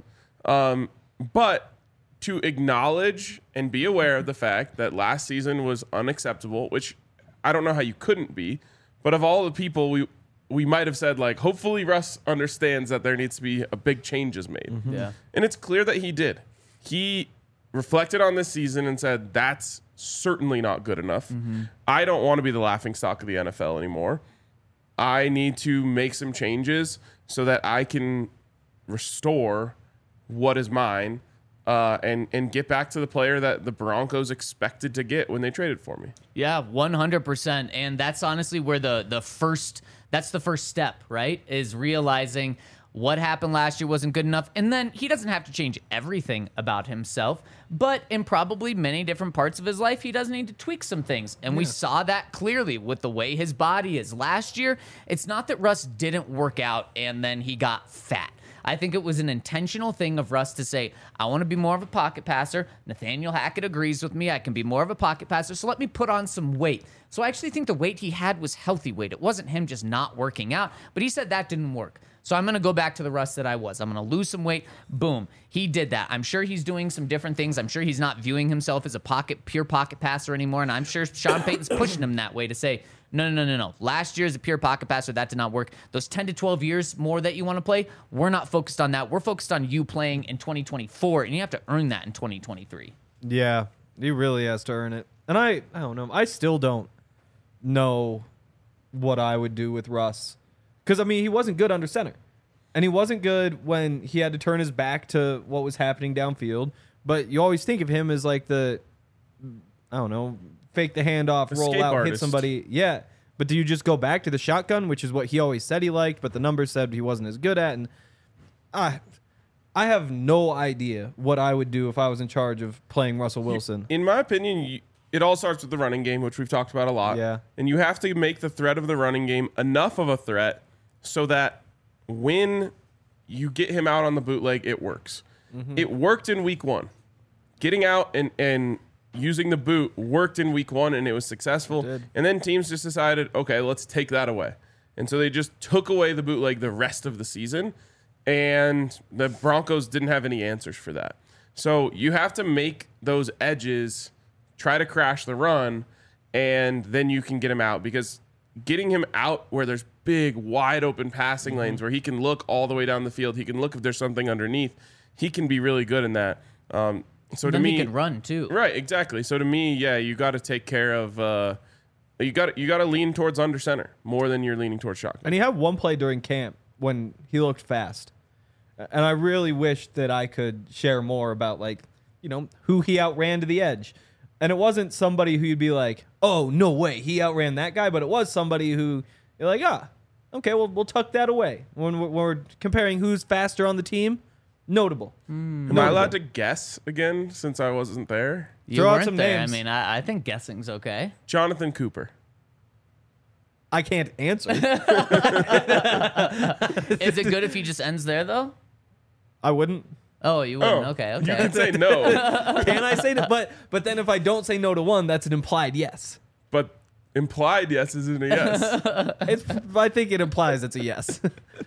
But to acknowledge and be aware of the fact that last season was unacceptable, which I don't know how you couldn't be, but of all the people we might have said, like, hopefully Russ understands that there needs to be a big changes made. Yeah. And it's clear that he did. He reflected on this season and said, that's certainly not good enough. I don't want to be the laughingstock of the NFL anymore. I need to make some changes so that I can restore what is mine and get back to the player that the Broncos expected to get when they traded for me. Yeah, 100%. And that's honestly where the first step, right? Is realizing what happened last year wasn't good enough. And then he doesn't have to change everything about himself, but in probably many different parts of his life, he does need to tweak some things. And we saw that clearly with the way his body is. Last year, it's not that Russ didn't work out and then he got fat. I think it was an intentional thing of Russ to say, I want to be more of a pocket passer. Nathaniel Hackett agrees with me. I can be more of a pocket passer, so let me put on some weight. So I actually think the weight he had was healthy weight. It wasn't him just not working out, but he said that didn't work. So I'm going to go back to the Russ that I was. I'm going to lose some weight. Boom. He did that. I'm sure he's doing some different things. I'm sure he's not viewing himself as a pure pocket passer anymore, and I'm sure Sean Payton's pushing him that way to say, no. Last year as a pure pocket passer, that did not work. Those 10 to 12 years more that you want to play, we're not focused on that. We're focused on you playing in 2024, and you have to earn that in 2023. Yeah, he really has to earn it. And I don't know. I still don't know what I would do with Russ. Because, I mean, he wasn't good under center. And he wasn't good when he had to turn his back to what was happening downfield. But you always think of him as like the, I don't know, fake the handoff, roll Escape out, hit artist. somebody. Yeah. But do you just go back to the shotgun, which is what he always said he liked, but the numbers said he wasn't as good at? And I have no idea what I would do if I was in charge of playing Russell Wilson. In my opinion, it all starts with the running game, which we've talked about a lot. Yeah. And you have to make the threat of the running game enough of a threat so that when you get him out on the bootleg, it works. It worked in week 1. Getting out and using the boot worked in week 1, and it was successful. did. And then teams just decided, okay, let's take that away. And so they just took away the bootleg the rest of the season, and the Broncos didn't have any answers for that. So you have to make those edges, try to crash the run, and then you can get him out, because getting him out where there's big, wide open passing lanes where he can look all the way down the field, he can look if there's something underneath, he can be really good in that. So to Then me, he can run too. right, exactly. So to me, yeah, you got to take care of. You got to lean towards under center more than you're leaning towards shotgun. And he had one play during camp when he looked fast. And I really wish that I could share more about, like, you know, who he outran to the edge. And it wasn't somebody who you'd be like, oh, no way, he outran that guy. But it was somebody who you're like, okay, well, we'll tuck that away. When we're comparing who's faster on the team, Notable. Am I allowed to guess again since I wasn't there? You Throw out weren't some there. names. I mean, I think guessing's okay. Jonathan Cooper. I can't answer. Is it good if he just ends there though? I wouldn't. Oh, you wouldn't. Okay. You can say no, Can I say that? But then if I don't say no to one, that's an implied yes. but implied yes isn't a yes. I think it implies it's a yes.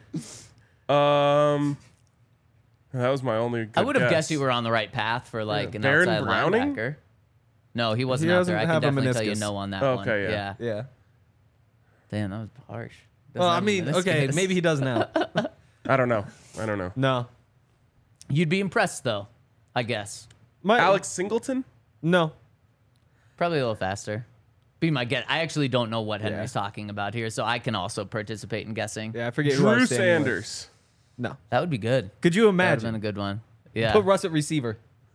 That was my only. Good I would have guess. guessed you were on the right path for like an Baron outside Browning? linebacker. No, he wasn't He out there. I doesn't can have a definitely tell you meniscus. no on that Okay, one. yeah. Yeah. Damn, that was harsh. Doesn't Well, I have a mean, okay, meniscus. maybe he does now. I don't know. No. You'd be impressed though, I guess. Alex Singleton. No. Probably a little faster. Be my guess. I actually don't know what Yeah. Henry's talking about here, so I can also participate in guessing. Yeah, I forget who I Drew was standing with. Sanders. No. That would be good. Could you That would have been imagine? a good one. Yeah. Put Russ at receiver.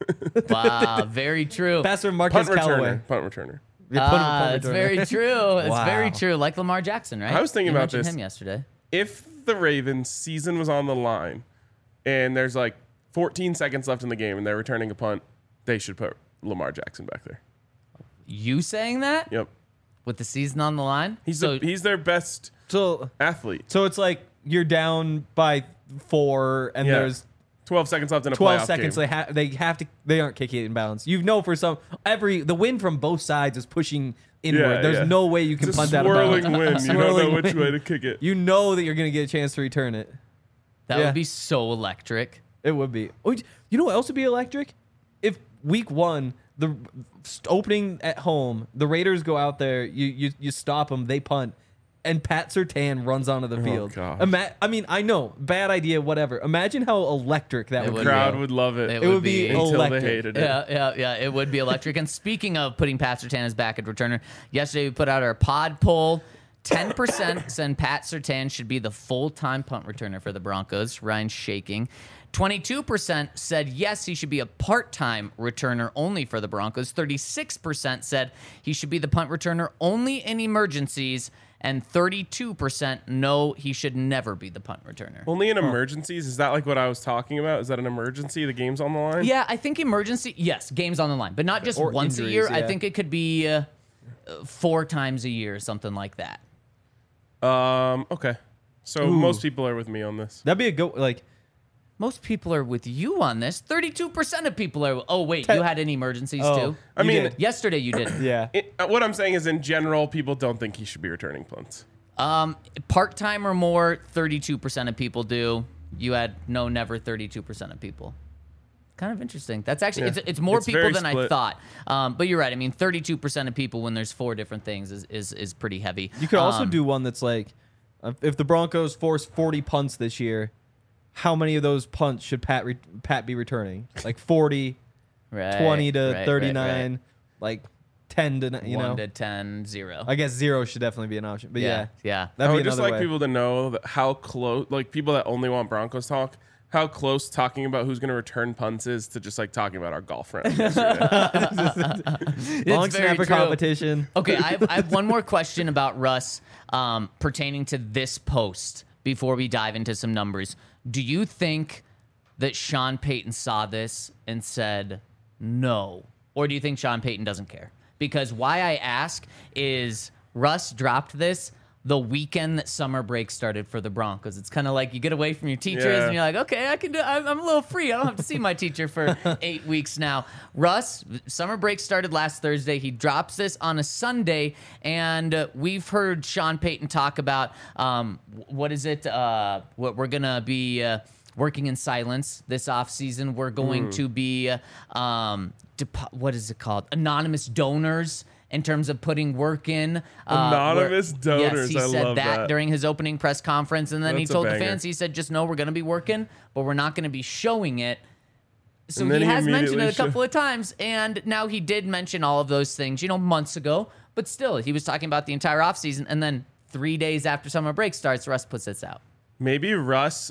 Wow, very true. Passer Punt Marcus Callaway. returner. Punt returner. Yeah, put him at punt It's returner. very true. It's Wow. very true. Like Lamar Jackson, right? I was thinking You about mentioned this. him yesterday. If the Ravens' season was on the line, and there's like 14 seconds left in the game, and they're returning a punt, they should put Lamar Jackson back there. You saying that Yep. with the season on the line? He's so he's their best So athlete. it's like you're down by 4 and Yeah. there's 12 seconds left in a 12 playoff seconds. game. They aren't kicking it in bounds. You know, for some the wind from both sides is pushing inward. There's no way you can It's a punt that out of swirling bounds. wind. You don't Swirling know which wind. way to kick it. You know that you're gonna get a chance to return it. that yeah. would be so electric. It would be. Oh, you know what else would be electric? If week 1, the opening at home, the Raiders go out there, you stop them, they punt, and Pat Surtain runs onto the field. gosh. I mean, I know, bad idea, whatever. Imagine how electric that It would would be. Crowd would love it. It It would be be- until electric. they hated it. Yeah. It would be electric. And speaking of putting Pat Surtain as back at returner, yesterday we put out our pod poll. 10% said Pat Surtain should be the full-time punt returner for the Broncos. Ryan's shaking. 22% said yes, he should be a part-time returner only for the Broncos. 36% said he should be the punt returner only in emergencies. And 32% no, he should never be the punt returner. Only in emergencies? Is that like what I was talking about? Is that an emergency? The game's on the line? Yeah, I think emergency, yes, games on the line, but not just Or once a injuries, year. I yeah. think it could be 4 times a year, something like that. Okay. So most people are with me on this. That'd be a good, like, Most people are with you on this. 32% of people are. Oh, wait, you had any emergencies Oh. too? I You mean, did. Yesterday you didn't. yeah. what I'm saying is, in general, people don't think he should be returning punts. Part-time or more, 32% of people do. You had no, never 32% of people. Kind of interesting. That's actually, Yeah. it's more It's people very than I split. thought. But you're right. I mean, 32% of people when there's 4 different things is pretty heavy. You could also do one that's like, if the Broncos force 40 punts this year, how many of those punts should Pat be returning? Like 40, 20 to 39, like 10 to, 1 to 10, 0. I guess 0 should definitely be an option. But yeah, Yeah. I that'd be would just another like way. people to know that how close, like people that only want Broncos talk, how close talking about who's going to return punts is to just like talking about our golf round yesterday. Long It's very snapper true. competition. Okay, I have one more question about Russ pertaining to this post before we dive into some numbers. Do you think that Sean Payton saw this and said no? Or do you think Sean Payton doesn't care? Because why I ask is Russ dropped this the weekend that summer break started for the Broncos. It's kind of like you get away from your teachers Yeah. and you're like, okay, I can do. I'm a little free. I don't have to see my teacher for 8 weeks now. Russ, summer break started last Thursday. He drops this on a Sunday, and we've heard Sean Payton talk about what is it? What we're gonna be working in silence this offseason. We're going to be what is it called? Anonymous donors. In terms of putting work in. Anonymous Yes, donors, he I said love that. during his opening press conference. And then he That's a told the banger. fans, he said, just know we're going to be working, but we're not going to be showing it. So And then he he has mentioned immediately it a couple of times. And now he did mention all of those things, months ago. But still, he was talking about the entire offseason. And then 3 days after summer break starts, Russ puts this out. Maybe Russ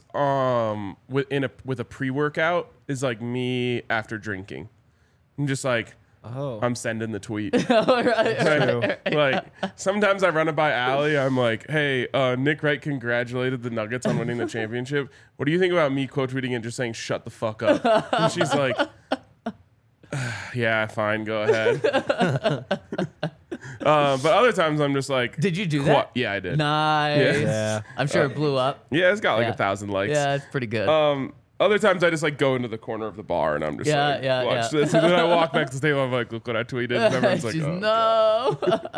with a pre-workout is like me after drinking. I'm just like, Oh. I'm sending the tweet. True. Like sometimes I run it by Allie. I'm like, hey, Nick Wright congratulated the Nuggets on winning the championship. What do you think about me quote tweeting and just saying shut the fuck up? And she's like, yeah, fine, go ahead. But other times I'm just like, Did you do that? Yeah, I did. Nice. Yeah. I'm sure it blew up. Yeah, it's got like Yeah. 1,000 likes. Yeah, it's pretty good. Other times I just like go into the corner of the bar and I'm just Yeah, like, yeah, watch yeah. this. And then I walk back to the table. I'm like, look what I tweeted. And everyone's like, She's, oh.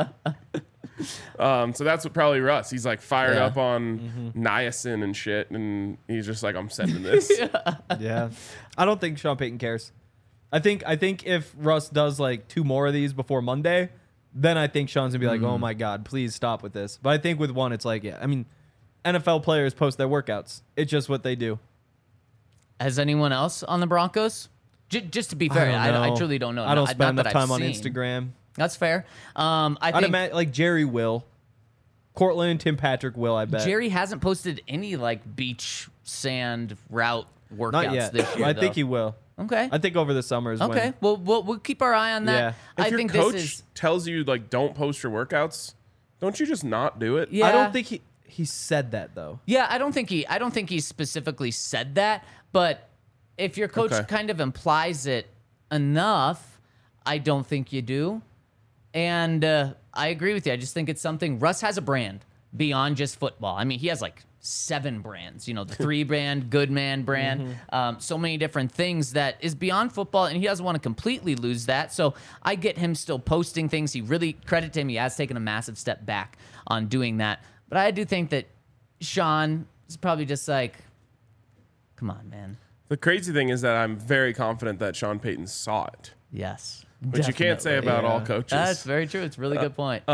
no. So that's what probably Russ. He's like fired Yeah. up on niacin and shit, and he's just like, I'm sending this. Yeah. I don't think Sean Payton cares. I think if Russ does like 2 more of these before Monday, then I think Sean's gonna be like, oh my God, please stop with this. But I think with one, it's like, yeah, I mean, NFL players post their workouts. It's just what they do. Has anyone else on the Broncos? Just to be fair, I truly don't know. I don't Not spend that enough time I've on seen. Instagram. That's fair. I I'd think imagine like Jerry will. Cortland and Tim Patrick will, I bet. Jerry hasn't posted any like beach sand route workouts Not yet. this year. I think though. he will. Okay. I think over the summer is Okay. when. Well, we'll keep our eye on that. Yeah. If I your think coach this is. tells you like don't post your workouts, don't you just not do it? Yeah. I don't think he said that though. Yeah, I don't think he specifically said that, but if your coach Okay. kind of implies it enough, I don't think you do. And I agree with you. I just think it's something. Russ has a brand beyond just football. I mean, he has like 7 brands. You know, the 3 brand, Good Man brand, so many different things that is beyond football, and he doesn't want to completely lose that. So I get him still posting things. He really, credit to him, he has taken a massive step back on doing that. But I do think that Sean is probably just like, come on, man. The crazy thing is that I'm very confident that Sean Payton saw it, Yes. which you can't say definitely. about all coaches. That's very true. It's a really good point.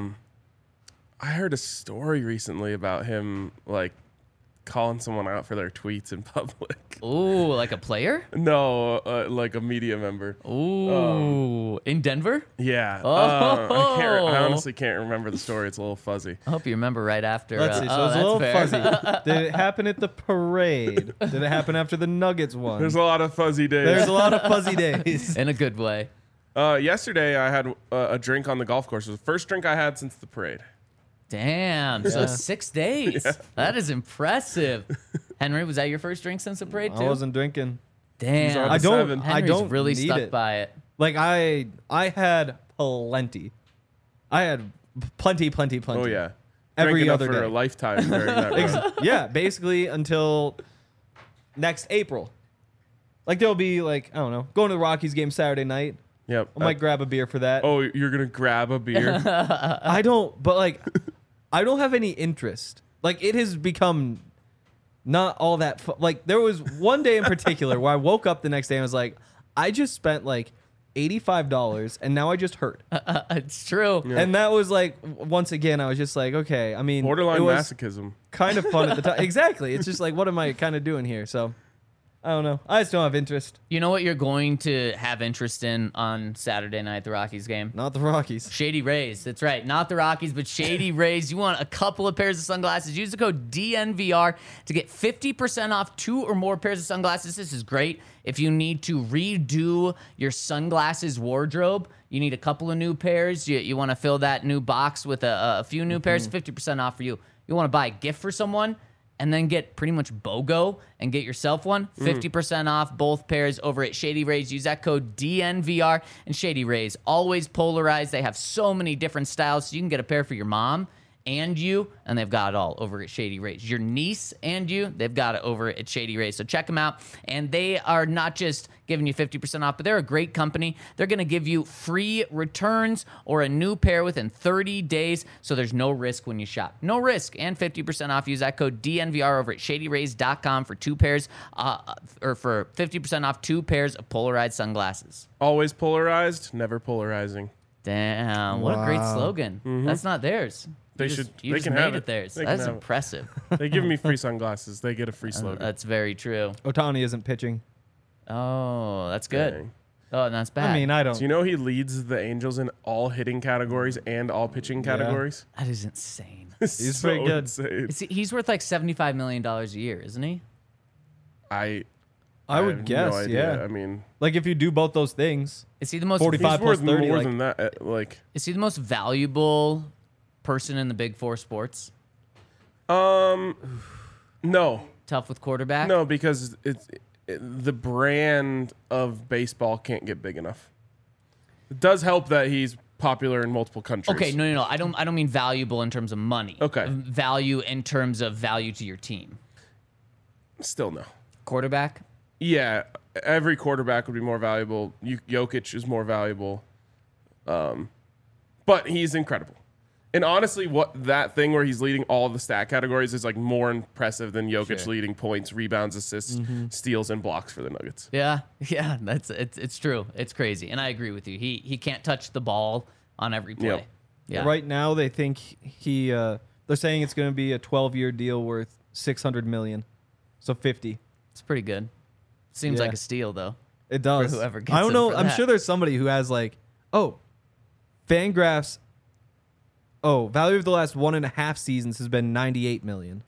I heard a story recently about him like calling someone out for their tweets in public. Ooh, like a player? No, like a media member. Ooh, in Denver? Yeah. Oh. I honestly can't remember the story. It's a little fuzzy. I hope you remember right after. Let's see. So it's a that's little fair. fuzzy. Did it happen at the parade? Did it happen after the Nuggets won? There's a lot of fuzzy days. There's a lot of fuzzy days. In a good way. Yesterday, I had a drink on the golf course. It was the first drink I had since the parade. Damn. So Yeah. 6 days. That is impressive. Henry, was that your first drink since the parade too? I wasn't drinking. Damn. on I the don't. seven. I Henry's don't really need stuck it. by it. Like I had plenty. I had plenty. Oh yeah. Every Drank enough other for day. a lifetime during that run. Yeah, basically until next April. Like there'll be like I don't know, going to the Rockies game Saturday night. Yep. I might grab a beer for that. Oh, you're gonna grab a beer? I don't, but like, I don't have any interest. Like, it has become not all that like, there was one day in particular where I woke up the next day and was like, I just spent like $85 and now I just hurt. It's true. And that was like, once again, I was just like, okay, I mean, Borderline it was masochism. kind of fun at the time. Exactly. It's just like, what am I kind of doing here? So, I don't know. I just don't have interest. You know what you're going to have interest in on Saturday night, the Rockies game? Not the Rockies. Shady Rays. That's right. Not the Rockies, but Shady Rays. You want a couple of pairs of sunglasses. Use the code DNVR to get 50% off 2 or more pairs of sunglasses. This is great. If you need to redo your sunglasses wardrobe, you need a couple of new pairs. You want to fill that new box with a few new pairs, 50% off for you. You want to buy a gift for someone and then get pretty much BOGO and get yourself one, 50% off both pairs over at Shady Rays. Use that code DNVR. And Shady Rays, always polarized. They have so many different styles, so you can get a pair for your mom and you, and they've got it all over at Shady Rays. Your niece and you, they've got it over at Shady Rays. So check them out. And they are not just giving you 50% off, but they're a great company. They're going to give you free returns or a new pair within 30 days. So there's no risk when you shop. No risk and 50% off. Use that code DNVR over at ShadyRays.com for 2 pairs, or for 50% off 2 pairs of polarized sunglasses. Always polarized, never polarizing. Damn, what a great slogan. That's not theirs. They You should- just- You they just can made have it it. theirs. They can That's have it. impressive. They give me free sunglasses. They get a free slogan. That's very true. Otani isn't pitching. Oh, that's good. Dang. Oh, and that's bad. I mean, I don't. Do you know he leads the Angels in all hitting categories and all pitching categories? That is insane. He's So pretty good. insane. He's worth like $75 million a year, isn't he? I I would have guess, no idea. yeah. I mean, Like if you do both those things, Is he the most 45 he's worth plus 30, more like- than that. Like, Is he the most valuable person in the Big Four sports? no, Tough with quarterback. no, because the brand of baseball can't get big enough. It does help that he's popular in multiple countries. Okay, no. I don't mean valuable in terms of money. Okay. Value in terms of value to your team. Still no. Quarterback. Yeah, every quarterback would be more valuable. Jokic is more valuable, but he's incredible. And honestly, what that thing where he's leading all the stat categories is like more impressive than Jokic leading points, rebounds, assists, steals, and blocks for the Nuggets. Yeah, it's true. It's crazy, and I agree with you. He can't touch the ball on every play. Yep. Yeah. right now they think they're saying it's going to be a 12-year deal worth $600 million, so 50. It's pretty good. Seems Yeah. like a steal though. It does. whoever gets I don't it know. for I'm that. sure there's somebody who has like, Fangraphs. Oh, value of the last 1.5 seasons has been $98 million.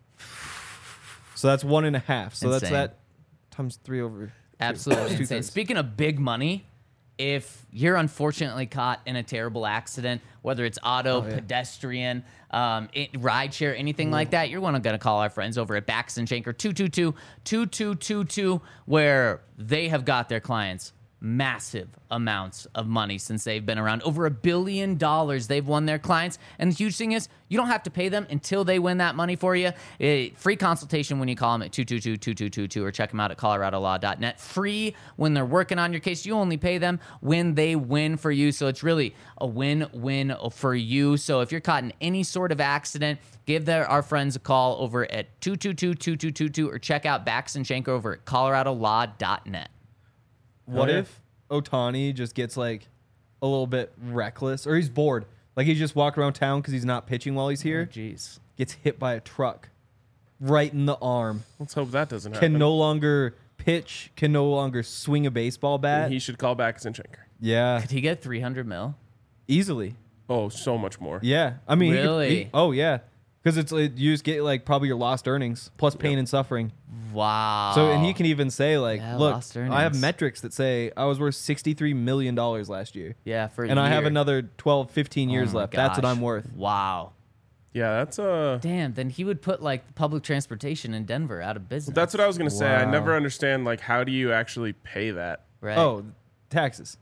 So that's 1.5. So that's Insane. that times 3 over. Absolutely insane. 2/3. Speaking of big money, if you're unfortunately caught in a terrible accident, whether it's auto, pedestrian, rideshare, anything like that, you're going to call our friends over at Bax and Shanker 222-2222, where they have got their clients massive amounts of money since they've been around. Over $1 billion they've won their clients. And the huge thing is, you don't have to pay them until they win that money for you. Free consultation when you call them at 222-2222 or check them out at coloradolaw.net. Free when they're working on your case. You only pay them when they win for you. So it's really a win-win for you. So if you're caught in any sort of accident, give our friends a call over at 222-2222 or check out Bax and Shanker over at coloradolaw.net. What yeah. if Ohtani just gets like a little bit reckless, or he's bored, like he's just walking around town because he's not pitching while he's here, Jeez. gets hit by a truck right in the arm, Let's hope that doesn't happen. can no longer pitch, can no longer swing a baseball bat? He should call back Zinchenko. Yeah, Could he get $300 million? easily. Oh, so much more. Yeah, I mean, Really? oh yeah, because you just get like probably your lost earnings plus pain and suffering. Wow. So and he can even say like, Yeah, look, lost I have earnings. metrics that say I was worth $63 million last year, Yeah, for a and I have year. another 12, 15 years Oh my left. That's what gosh. I'm worth. Wow. Yeah, that's Damn, then he would put like public transportation in Denver out of business. that's what I was gonna say. I Wow. never understand like how do you actually pay that? right. Oh, taxes.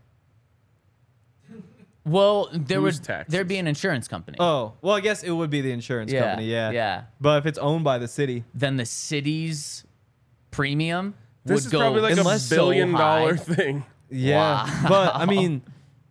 well, there Whose would taxes? there'd be an insurance company. Oh, well, I guess it would be the insurance Yeah, company. Yeah. yeah. But if it's owned by the city, Then the city's premium This would is go probably like a unless so billion dollar high. thing. yeah. Wow. But I mean,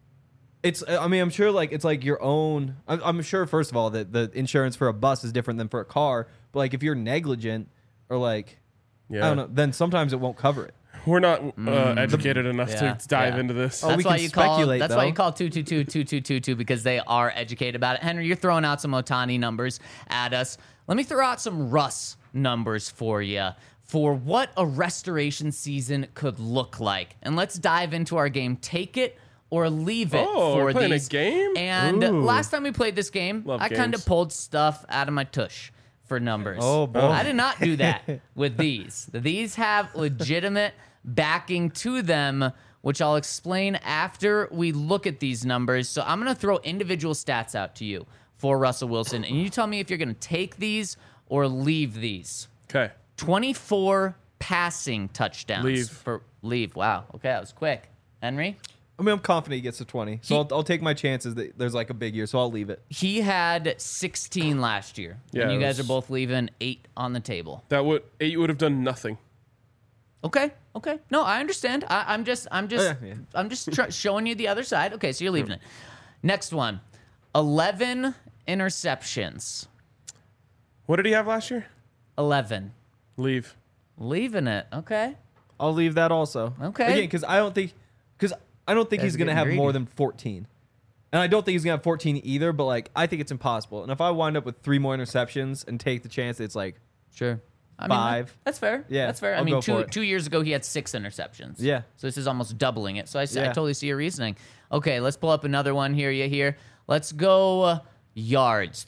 I'm sure like it's like your own. I'm sure first of all that the insurance for a bus is different than for a car. But like if you're negligent or like Yeah. I don't know, then sometimes it won't cover it. We're not educated enough Yeah, to dive yeah. into this. Oh, That's we why can you call. speculate, That's why you though. call 222-2222 because they are educated about it. Henry, you're throwing out some Ohtani numbers at us. Let me throw out some Russ numbers for you for what a restoration season could look like, and let's dive into our game. Take it or leave it Oh, for we're playing a these. game? And Ooh. last time we played this game, Love I kind of games. pulled stuff out of my tush for numbers. Oh, boy. I did not do that with these. These have legitimate backing to them, which I'll explain after we look at these numbers. So I'm going to throw individual stats out to you for Russell Wilson, and you tell me if you're going to take these or leave these. Okay. 24 passing touchdowns. Leave. Leave. Wow. Okay, that was quick. Henry? I mean, I'm confident he gets to 20, so I'll take my chances that there's like a big year, so I'll leave it. He had 16 last year. Yeah, and you it guys was- are both leaving 8 on the table. That would 8 would have done nothing. Okay. No, I understand. I'm just yeah. showing you the other side. Okay, so you're leaving it. Next one. 11 interceptions. What did he have last year? 11. Leave. Leaving it. Okay. I'll leave that also. Okay. Again, because I don't think Guys he's are gonna getting have more greedy. than 14, and I don't think he's gonna have 14 either. But like, I think it's impossible. And if I wind up with 3 more interceptions and take the chance, it's like Sure. I mean, 5. That's fair. Yeah, That's fair. I I'll mean, go for it. 2 years ago, he had 6 interceptions. Yeah. So this is almost doubling it. So I Yeah. totally see your reasoning. Okay, let's pull up another one here. Let's go yards.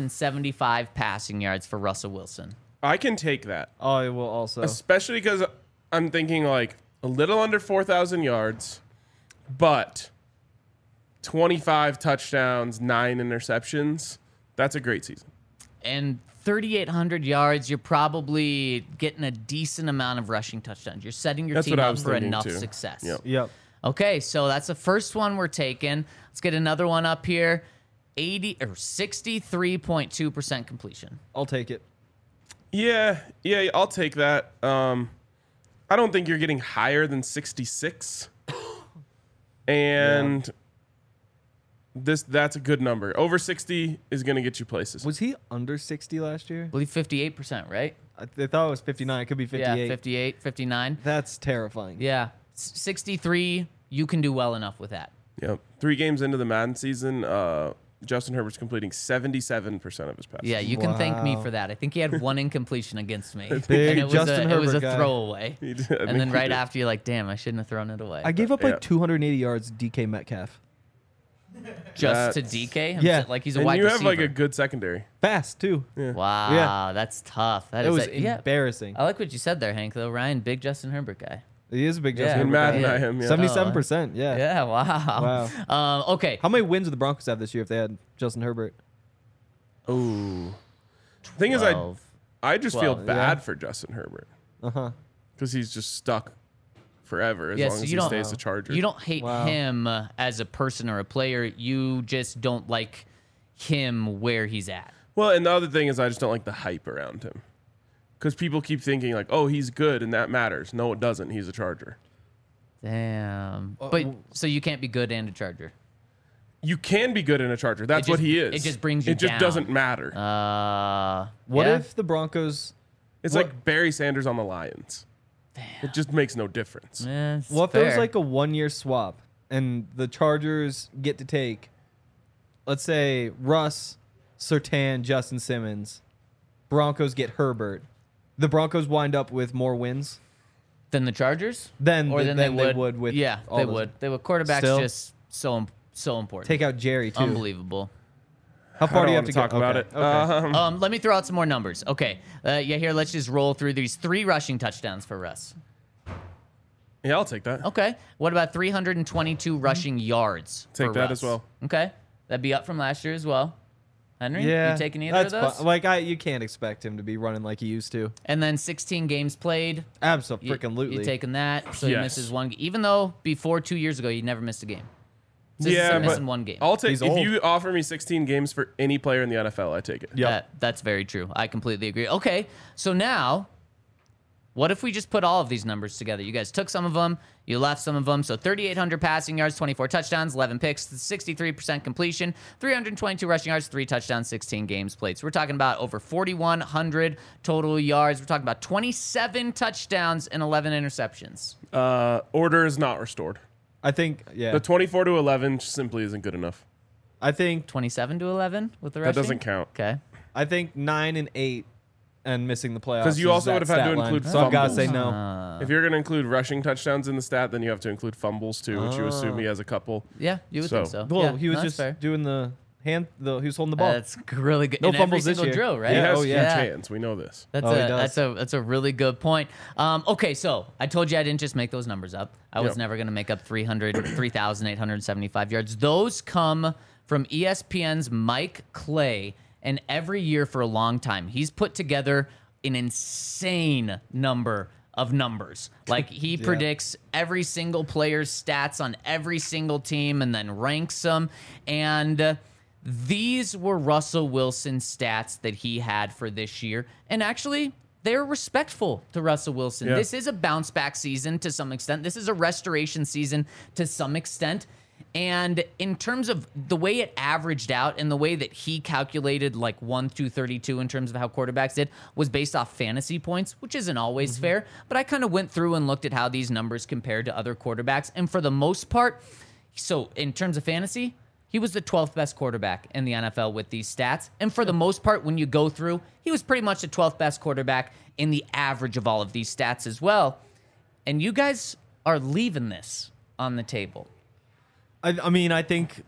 3,875 passing yards for Russell Wilson. I can take that. I will also. Especially because I'm thinking like a little under 4,000 yards, but 25 touchdowns, 9 interceptions. That's a great season. And 3,800 yards, you're probably getting a decent amount of rushing touchdowns. You're setting your That's team what I up was for thinking, enough too. success. Yep. Yep. Okay, so that's the first one we're taking. Let's get another one up here. 63.2% completion. I'll take it. Yeah, I'll take that. I don't think you're getting higher than 66. And that's a good number. Over 60 is going to get you places. Was he under 60 last year? I believe 58%, right? I thought it was 59. It could be 58. Yeah, 58, 59. That's terrifying. Yeah, 63, you can do well enough with that. Yep. 3 games into the Madden season, Justin Herbert's completing 77% of his passes. Yeah, you can thank me Wow. for that. I think he had one incompletion against me. Big and it was Justin it was a Herbert guy. throwaway. He did. I And think then he right did. after, you're like, damn, I shouldn't have thrown it away. I gave up Yeah. like 280 yards DK Metcalf. Just to That's- DK? Yeah. Like he's a And wide you receiver. have like a good secondary. Fast, too. Wow, Yeah. that's tough. That It is was yeah. embarrassing. I like what you said there, Hank, though. Ryan, big Justin Herbert guy. He is a big Yeah. Justin In Herbert Madden, guy. I am. Yeah. 77%, yeah. Yeah, wow. Okay. How many wins would the Broncos have this year if they had Justin Herbert? Ooh. Thing is, 12. I just feel 12, bad yeah. for Justin Herbert Uh-huh. because he's just stuck forever as Yeah, long so as you he don't- stays a Charger. You don't hate Wow. him as a person or a player. You just don't like him where he's at. Well, and the other thing is I just don't like the hype around him. Because people keep thinking like, oh, he's good and that matters. No, it doesn't. He's a Charger. Damn. But so you can't be good and a Charger. You can be good in a Charger. That's what just- he is. it just brings you It just down. doesn't matter. What yeah. if the Broncos... It's what- like Barry Sanders on the Lions. It just makes no difference. Yeah, it's What if there was fair. like a 1-year swap and the Chargers get to take, let's say, Russ, Surtain, Justin Simmons. Broncos get Herbert. The Broncos wind up with more wins Than the Chargers? than, Or than than they would with yeah, all they those- would. They would. Quarterback's Still? just so important. Take out Jerry, too. Unbelievable. How I far don't do you have want to to talk go? about Okay. it. Okay. Let me throw out some more numbers. Okay. Yeah, here, let's just roll through these 3 rushing touchdowns for Russ. Yeah, I'll take that. Okay. What about 322 rushing yards? Take for that Russ? as well. Okay. That'd be up from last year as well. Henry, Yeah, you taking either of that's those? fine. Like you can't expect him to be running like he used to. And then 16 games played. Absolutely. You taking that? So he Yes. misses one. Even though before 2 years ago he never missed a game. So this is Yeah, him but missing one game. I'll take He's if old. you offer me 16 games for any player in the NFL, I take it. That's very true. I completely agree. Okay, so now, what if we just put all of these numbers together? You guys took some of them, you left some of them. So 3,800 passing yards, 24 touchdowns, 11 picks, 63% completion, 322 rushing yards, 3 touchdowns, 16 games played. So we're talking about over 4,100 total yards. We're talking about 27 touchdowns and 11 interceptions. Order is not restored. I think, yeah. The 24 to 11 simply isn't good enough. I think 27 to 11 with the That rushing? doesn't count. Okay. 9 and 8 and missing the playoffs. 'Cause you is also that would have had to stat line. include So I've got to fumbles. say no. If you're going to include rushing touchdowns in the stat, then you have to include fumbles too, which you assume he has a couple. Yeah, you would think so. Well, Yeah, he was no, that's just fair. doing the hand. He was holding the ball. That's really good. No in fumbles every this single year. drill, right? He has oh, huge yeah. hands. We know this. That's Oh, he a does. that's a really good point. Okay, so I told you I didn't just make those numbers up. I was Yep. never going to make up 3,875 yards. Those come from ESPN's Mike Clay, and every year for a long time, he's put together an insane number of numbers. Like he predicts every single player's stats on every single team and then ranks them. And these were Russell Wilson's stats that he had for this year. And actually, they're respectful to Russell Wilson. Yeah. This is a bounce back season to some extent. This is a restoration season to some extent. And in terms of the way it averaged out and the way that he calculated like 1 through 32 in terms of how quarterbacks did was based off fantasy points, which isn't always fair. But I kind of went through and looked at how these numbers compared to other quarterbacks. And for the most part, so in terms of fantasy, he was the 12th best quarterback in the NFL with these stats. And for the most part, when you go through, he was pretty much the 12th best quarterback in the average of all of these stats as well. And you guys are leaving this on the table. I mean, I think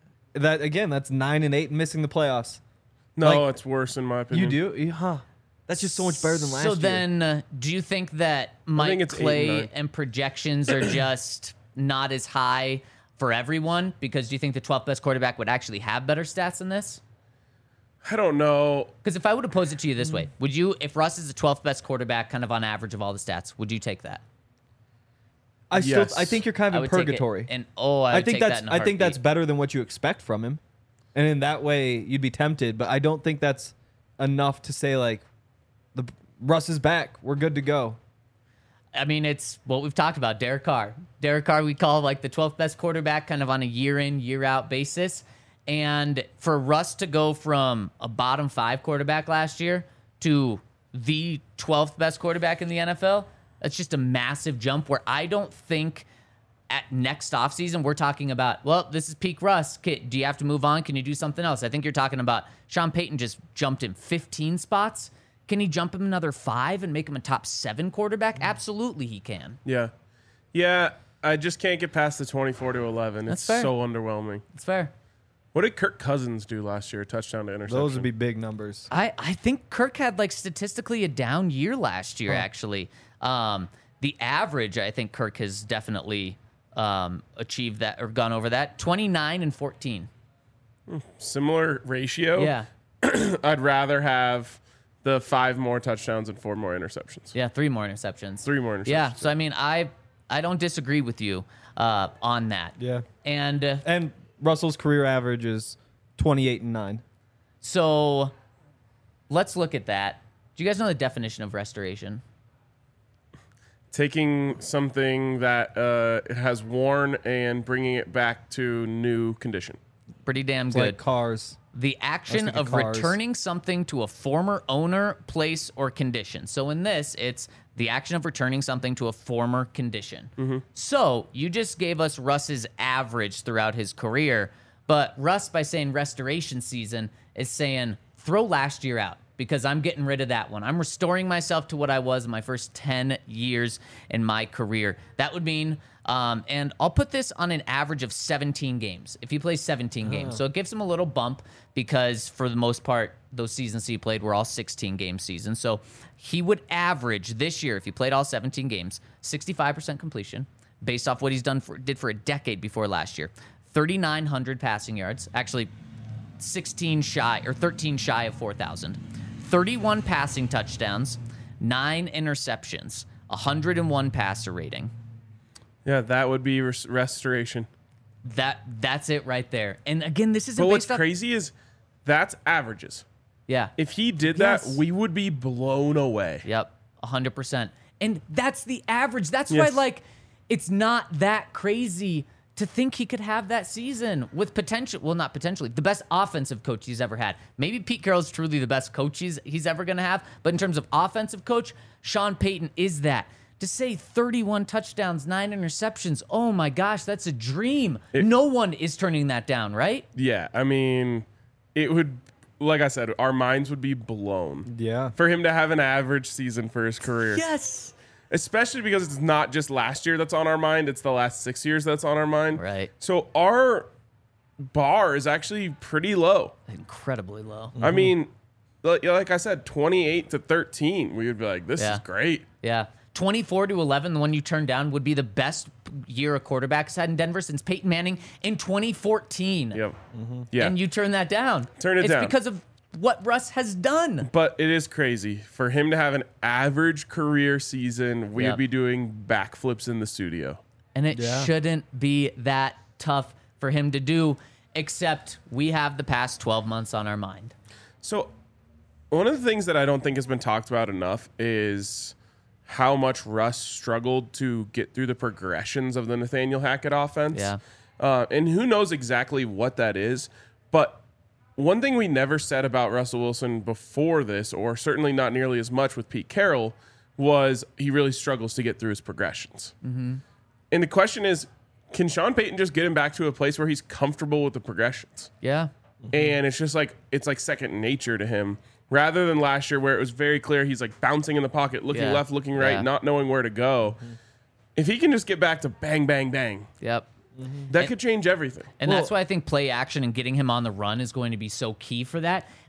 that again, that's 9 and 8 missing the playoffs. No, Like, it's worse in my You opinion. do? Huh. That's just so much better than last So year. then, do you think that Mike it's 8 and Clay 9. and projections are just not as high for everyone? Because do you think the 12th best quarterback would actually have better stats than this? I don't know. Because if I would have posed it to you this way, would you, if Russ is the 12th best quarterback, kind of on average of all the stats, would you take that? I Yes. think you're kind I of in would take it, purgatory. and I would think take that that's in a I think that's heartbeat. better than what you expect from him, and in that way you'd be tempted. But I don't think that's enough to say like, the Russ is back. We're good to go. I mean, it's what we've talked about. Derek Carr. Derek Carr, we call like the 12th best quarterback kind of on a year in, year out basis. And for Russ to go from a bottom 5 quarterback last year to the 12th best quarterback in the NFL, that's just a massive jump where I don't think at next offseason we're talking about, well, this is peak Russ. Do you have to move on? Can you do something else? I think you're talking about Sean Payton just jumped him 15 spots. Can he jump him another 5 and make him a top 7 quarterback? Absolutely he can. Yeah. Yeah, I just can't get past the 24-11. That's It's fair. so underwhelming. It's fair. What did Kirk Cousins do last year? Touchdown to interception. Those would be big numbers. I think Kirk had like statistically a down year last year, actually. The average, I think Kirk has definitely achieved that or gone over that. 29 and 14. Similar ratio. Yeah. I'd rather have the 5 more touchdowns and 4 more interceptions. Yeah, 3 more interceptions. 3 more interceptions. Yeah, so I mean, I don't disagree with you on that. Yeah. And And Russell's career average is 28-9. so let's look at that. Do you guys know the definition of restoration? Taking something that has worn and bringing it back to new condition. Pretty damn It's good. like cars. The action thinking of cars. returning something to a former owner, place, or condition. So in this, it's the action of returning something to a former condition. So you just gave us Russ's average throughout his career, but Russ, by saying restoration season, is saying throw last year out because I'm getting rid of that one. I'm restoring myself to what I was in my first 10 years in my career. That would mean and I'll put this on an average of 17 games. If he plays 17 games. So it gives him a little bump because for the most part, those seasons he played were all 16-game seasons. So he would average this year, if he played all 17 games, 65% completion based off what he's did for a decade before last year. 3,900 passing yards. Actually, 13 shy of 4,000. 31 passing touchdowns, 9 interceptions, 101 passer rating. Yeah, that would be restoration. That's it right there. And again, this isn't But what's based off. crazy is that's averages. Yeah. If he did Yes. that, we would be blown away. Yep. 100%. And that's the average. That's why, Yes. like, it's not that crazy to think he could have that season with potential. Well, not potentially. The best offensive coach he's ever had. Maybe Pete Carroll's truly the best coach he's ever going to have. But in terms of offensive coach, Sean Payton is that. To say 31 touchdowns, 9 interceptions, oh my gosh, that's a dream. No one is turning that down, right? Yeah, I mean, it would, like I said, our minds would be blown. Yeah. For him to have an average season for his career. Yes. Especially because it's not just last year that's on our mind, it's the last 6 years that's on our mind. Right. So our bar is actually pretty low. Incredibly low. I mean, like I said, 28-13, we would be like, this Yeah. is great. Yeah. 24-11, the one you turned down, would be the best year a quarterback's had in Denver since Peyton Manning in 2014. Yep. Yeah. And you turned that down. Turn it down. It's because of what Russ has done. But it is crazy. For him to have an average career season, we Yep. would be doing backflips in the studio. And it shouldn't be that tough for him to do, except we have the past 12 months on our mind. So, one of the things that I don't think has been talked about enough is how much Russ struggled to get through the progressions of the Nathaniel Hackett offense. Yeah. And who knows exactly what that is. But one thing we never said about Russell Wilson before this, or certainly not nearly as much with Pete Carroll, was he really struggles to get through his progressions. Mm-hmm. And the question is, can Sean Payton just get him back to a place where he's comfortable with the progressions? Yeah. And it's just like, it's like second nature to him. Rather than last year where it was very clear he's like bouncing in the pocket, looking Yeah. left, looking right, Yeah. not knowing where to go. If he can just get back to bang, bang, bang, Yep. that could change everything. And that's why I think play action and getting him on the run is going to be so key for that.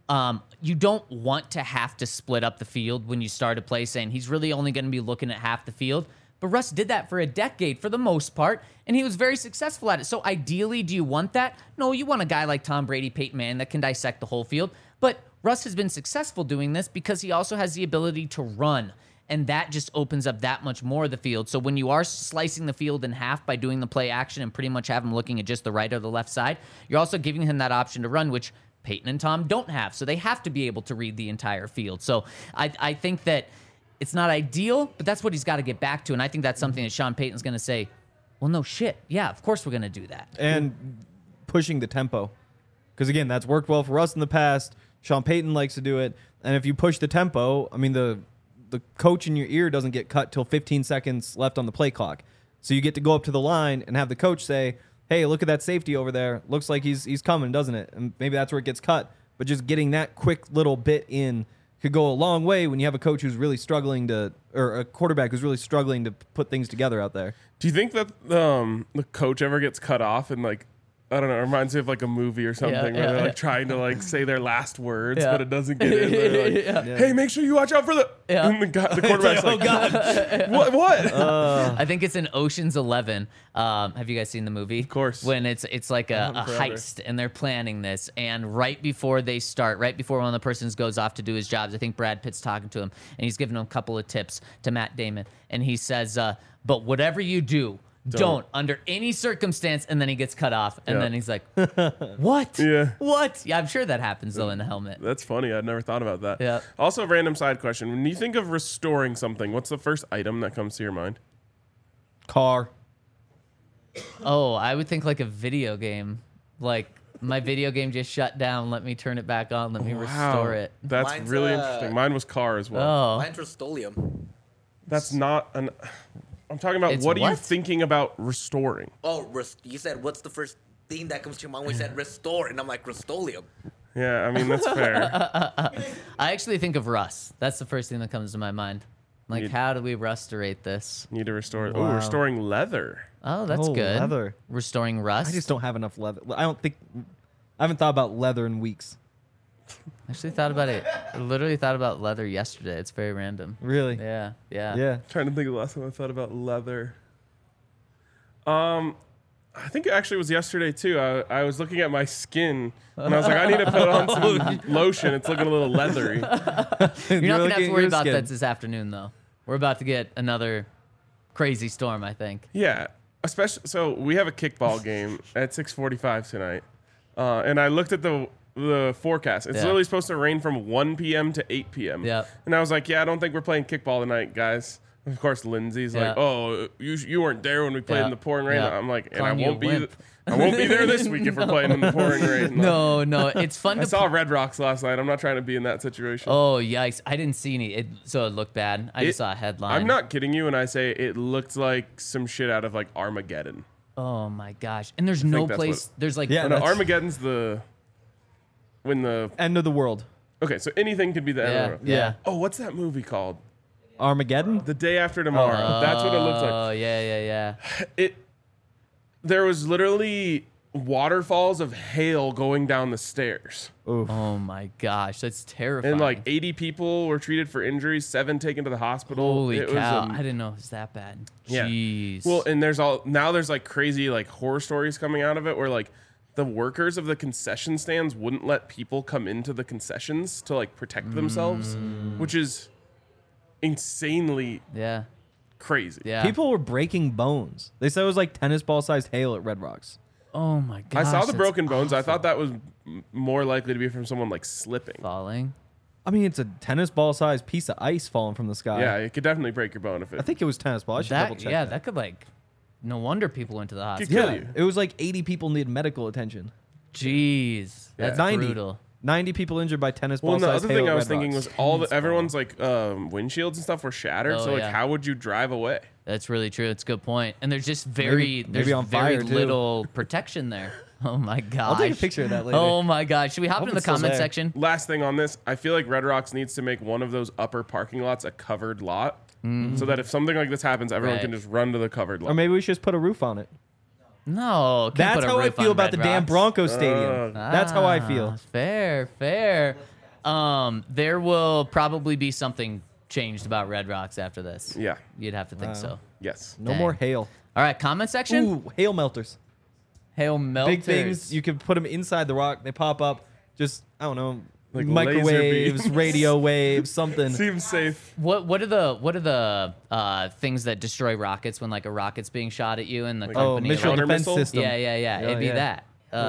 You don't want to have to split up the field when you start a play, saying he's really only going to be looking at half the field. But Russ did that for a decade for the most part, and he was very successful at it. So ideally, do you want that? No, you want a guy like Tom Brady, Peyton Manning that can dissect the whole field. But Russ has been successful doing this because he also has the ability to run, and that just opens up that much more of the field. So when you are slicing the field in half by doing the play action and pretty much have him looking at just the right or the left side, you're also giving him that option to run, which Peyton and Tom don't have. So they have to be able to read the entire field. So I think that it's not ideal, but that's what he's got to get back to. And I think that's something that Sean Payton's going to say, well, no shit. Yeah, of course we're going to do that. And pushing the tempo. Because, again, that's worked well for us in the past. Sean Payton likes to do it. And if you push the tempo, I mean, the coach in your ear doesn't get cut till 15 seconds left on the play clock. So you get to go up to the line and have the coach say, hey, look at that safety over there. Looks like he's coming, doesn't it? And maybe that's where it gets cut. But just getting that quick little bit in could go a long way when you have a coach who's really struggling or a quarterback who's really struggling to put things together out there. Do you think that the coach ever gets cut off and like, I don't know, it reminds me of like a movie or something where they're like trying to like say their last words, but it doesn't get in. They're like, hey, make sure you watch out for the. And the quarterback's like, oh God, what? I think it's in Ocean's 11. Have you guys seen the movie? Of course. When it's like a heist and they're planning this, and right before they start, right before one of the persons goes off to do his jobs, I think Brad Pitt's talking to him and he's giving him a couple of tips to Matt Damon, and he says, "But whatever you do." Don't under any circumstance, and then he gets cut off, and then he's like, "What? What?" Yeah, I'm sure that happens though in the helmet. That's funny. I'd never thought about that. Yeah. Also, a random side question: when you think of restoring something, what's the first item that comes to your mind? Car. Oh, I would think like a video game. Like my video game just shut down. Let me turn it back on. Let me restore it. That's Mine's, really interesting. Mine was car as well. Oh, Mine's Rust-Oleum. That's not an. I'm talking about It's what are you what? thinking about restoring? Oh, you said what's the first thing that comes to your mind when you said restore? And I'm like, Rust-Oleum. Yeah, I mean that's fair. I actually think of Russ. That's the first thing that comes to my mind. Like, how do we restorate this? Need to restore. Oh, Wow. restoring leather. Oh, that's Oh, good. leather. Restoring rust. I just don't have enough leather. I haven't thought about leather in weeks. Actually thought about it. I literally thought about leather yesterday. It's very random. Really? Yeah. Yeah. Trying to think of the last time I thought about leather. I think it actually was yesterday too. I was looking at my skin and I was like, I need to put on some lotion. It's looking a little leathery. You're not gonna have to worry about that this afternoon, though. We're about to get another crazy storm, I think. Yeah, especially so we have a kickball game at 6:45 tonight, and I looked at the forecast. It's literally supposed to rain from 1 p.m. to 8 p.m. Yeah. And I was like, yeah, I don't think we're playing kickball tonight, guys. Of course, Lindsay's like, oh, you weren't there when we played in the pouring rain. I'm like, and I won't be there this week if we're playing in the pouring rain. No, it's fun I to saw Red Rocks last night. I'm not trying to be in that situation. Oh, yikes. I didn't see any, so it looked bad. I just saw a headline. I'm not kidding you when I say it looked like some shit out of like Armageddon. Oh, my gosh. And there's no that's place, there's like, Yeah, No, that's- Armageddon's when the End of the world. okay, so anything could be the end of the world. yeah. Oh, what's that movie called? Armageddon? The Day After Tomorrow. That's what it looks like. Oh, yeah. There was literally waterfalls of hail going down the stairs. Oh, my gosh. That's terrifying. And like 80 people were treated for injuries, 7 taken to the hospital. Holy It cow. was I didn't know it was that bad. Yeah. Jeez. Well, and there's like crazy like horror stories coming out of it where like the workers of the concession stands wouldn't let people come into the concessions to like protect themselves, which is insanely yeah. crazy. Yeah. People were breaking bones. They said it was like tennis ball sized hail at Red Rocks. Oh, my gosh. I saw the that's broken bones. I awful. thought that was more likely to be from someone like slipping. Falling. I mean, it's a tennis ball sized piece of ice falling from the sky. Yeah, it could definitely break your bone if it. I think it was tennis ball. I should double check. Yeah, that could like, no wonder people went to the could hospital. kill Yeah, you. it was like 80 people needed medical attention. Jeez. That's 90. brutal. 90 people injured by tennis ball Well, and the sized other hail thing at I was Red thinking Rocks. was everyone's like windshields and stuff were shattered. Oh, so like, yeah. how would you drive away? That's really true. It's a good point. And there's just Maybe on very fire, too. little protection there. Oh my gosh. I'll take a picture of that later. Oh my gosh. Should we hop Hope into the it's still comment there. section? Last thing on this, I feel like Red Rocks needs to make one of those upper parking lots a covered lot, so that if something like this happens, everyone can Right. just run to the covered lot. Or maybe we should just put a roof on it. No. Can't That's put a how I roof feel on about Red the damn Rocks. Broncos stadium. That's how I feel. Fair. There will probably be something changed about Red Rocks after this. Yeah. You'd have to think so. Yes. No Dang. more hail. All right, comment section. Ooh, hail melters. Hail melters. Big things. You can put them inside the rock. They pop up. Just, I don't know, Like microwaves, laser beams. radio waves, something. Seems safe. What are the things that destroy rockets when like a rocket's being shot at you and the Oh, company? missile Counter defense missile? system. Yeah. It'd be yeah. that.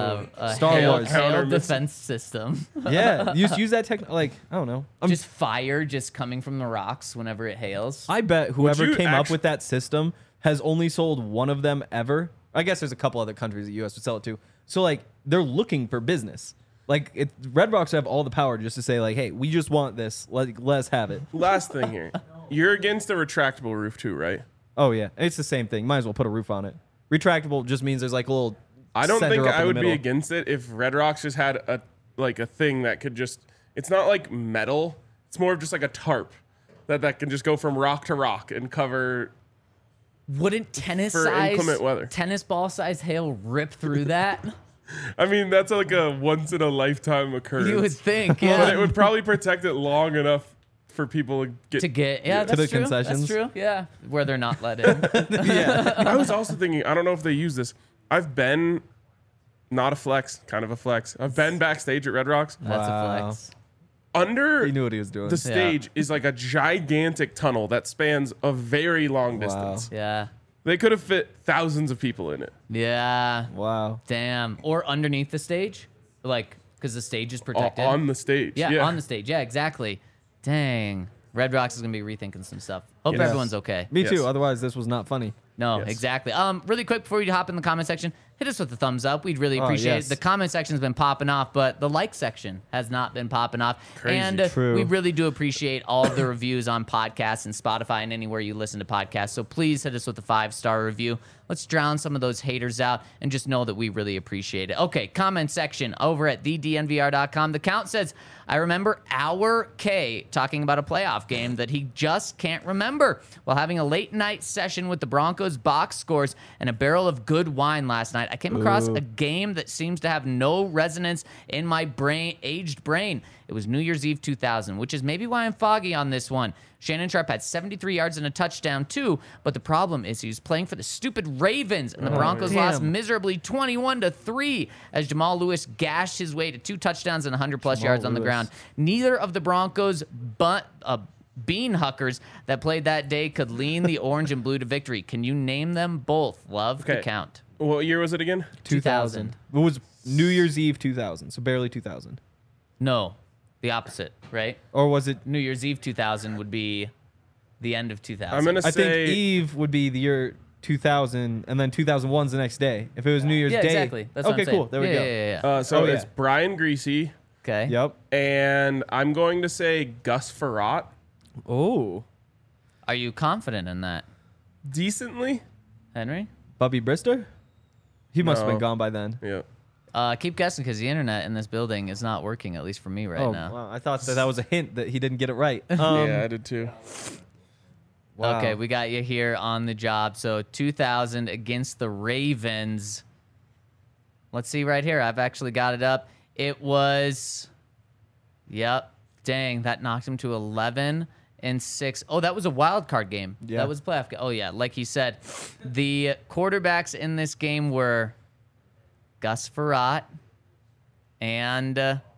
A Star hail, Wars. hail Counter missile. defense system. Yeah, use that tech. Like, I don't know. Just fire just coming from the rocks whenever it hails. I bet whoever you came up actu- with that system has only sold one of them ever. I guess there's a couple other countries the U.S. would sell it to. So like they're looking for business. Like Red Rocks have all the power just to say like, hey, we just want this. Like let's have it. Last thing here. You're against the retractable roof too, right? Oh yeah, it's the same thing. Might as well put a roof on it. Retractable just means there's like a little. I don't center think up in I the would be middle. against it if Red Rocks just had a thing that could just. It's not like metal. It's more of just like a tarp that can just go from rock to rock and cover. Wouldn't For inclement weather. tennis ball size hail rip through that? I mean, that's like a once in a lifetime occurrence. You would think, But it yeah. would probably protect it long enough for people to get. To get, yeah, To that's the true. concessions. That's true, yeah. Where they're not let in. Yeah. I was also thinking. I don't know if they use this. I've been. Not a flex, kind of a flex. I've been backstage at Red Rocks. That's Wow. a flex. Under He knew what he was doing. the stage is like a gigantic tunnel that spans a very long distance. Yeah. They could have fit thousands of people in it. Yeah. Wow. Damn. Or underneath the stage, like because the stage is protected. On the stage. yeah, on the stage. Yeah, exactly. Dang. Red Rocks is gonna be rethinking some stuff. Hope Yes. everyone's okay. Me Yes. too. Otherwise, this was not funny. No, Yes. exactly. Really quick before you hop in the comment section, hit us with a thumbs up. We'd really appreciate yes. it. The comment section's been popping off, but the like section has not been popping off. Crazy. And True. we really do appreciate all of the reviews on podcasts and Spotify and anywhere you listen to podcasts. So please hit us with a 5-star review. Let's drown some of those haters out and just know that we really appreciate it. Okay, comment section over at thednvr.com. The count says, I remember our K talking about a playoff game that he just can't remember while having a late night session with the Broncos box scores and a barrel of good wine last night. I came across a game that seems to have no resonance in my aged brain. It was New Year's Eve 2000, which is maybe why I'm foggy on this one. Shannon Sharp had 73 yards and a touchdown too, but the problem is he was playing for the stupid Ravens, and the Broncos lost miserably 21-3 as Jamal Lewis gashed his way to 2 touchdowns and 100-plus yards on the Lewis. ground. Neither of the Broncos bean huckers that played that day could lean the orange and blue to victory. Can you name them both? Love the Okay. count. What year was it again? 2000. It was New Year's Eve 2000, so barely 2000. No, the opposite, right? Or was it? New Year's Eve 2000 would be the end of 2000. I'm gonna I think say Eve would be the year 2000, and then 2001's the next day. If it was New Year's yeah, Day. exactly. That's what okay, I'm saying. cool. There we Yeah, go. Yeah, yeah. so Oh, yeah. it's Brian Greasy, Okay. Yep. and I'm going to say Gus Farrat. Oh, Are you confident in that, Decently. Henry? Bubby Brister? He must have No. been gone by then. Yeah. Keep guessing because the internet in this building is not working, at least for me right now. Wow. I thought that was a hint that he didn't get it right. Yeah, I did too. Wow. Okay, we got you here on the job. So 2000 against the Ravens. Let's see right here. I've actually got it up. It was, yep. Dang, that knocked him to 11-6. Oh, that was a wild card game. Yeah. That was a playoff game. Oh, yeah. Like he said, the quarterbacks in this game were Gus Farrat and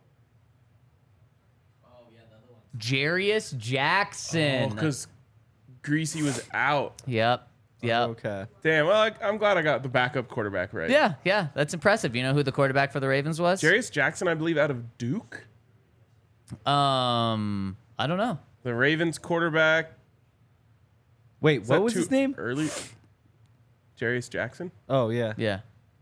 Jarius Jackson. Because Greasy was out. Yep. Okay. Damn. Well, I'm glad I got the backup quarterback right. Yeah. That's impressive. You know who the quarterback for the Ravens was? Jarius Jackson, I believe, out of Duke. I don't know. The Ravens quarterback. Wait, Is what that was too his name? Early. Jarius Jackson. Oh, yeah. Yeah.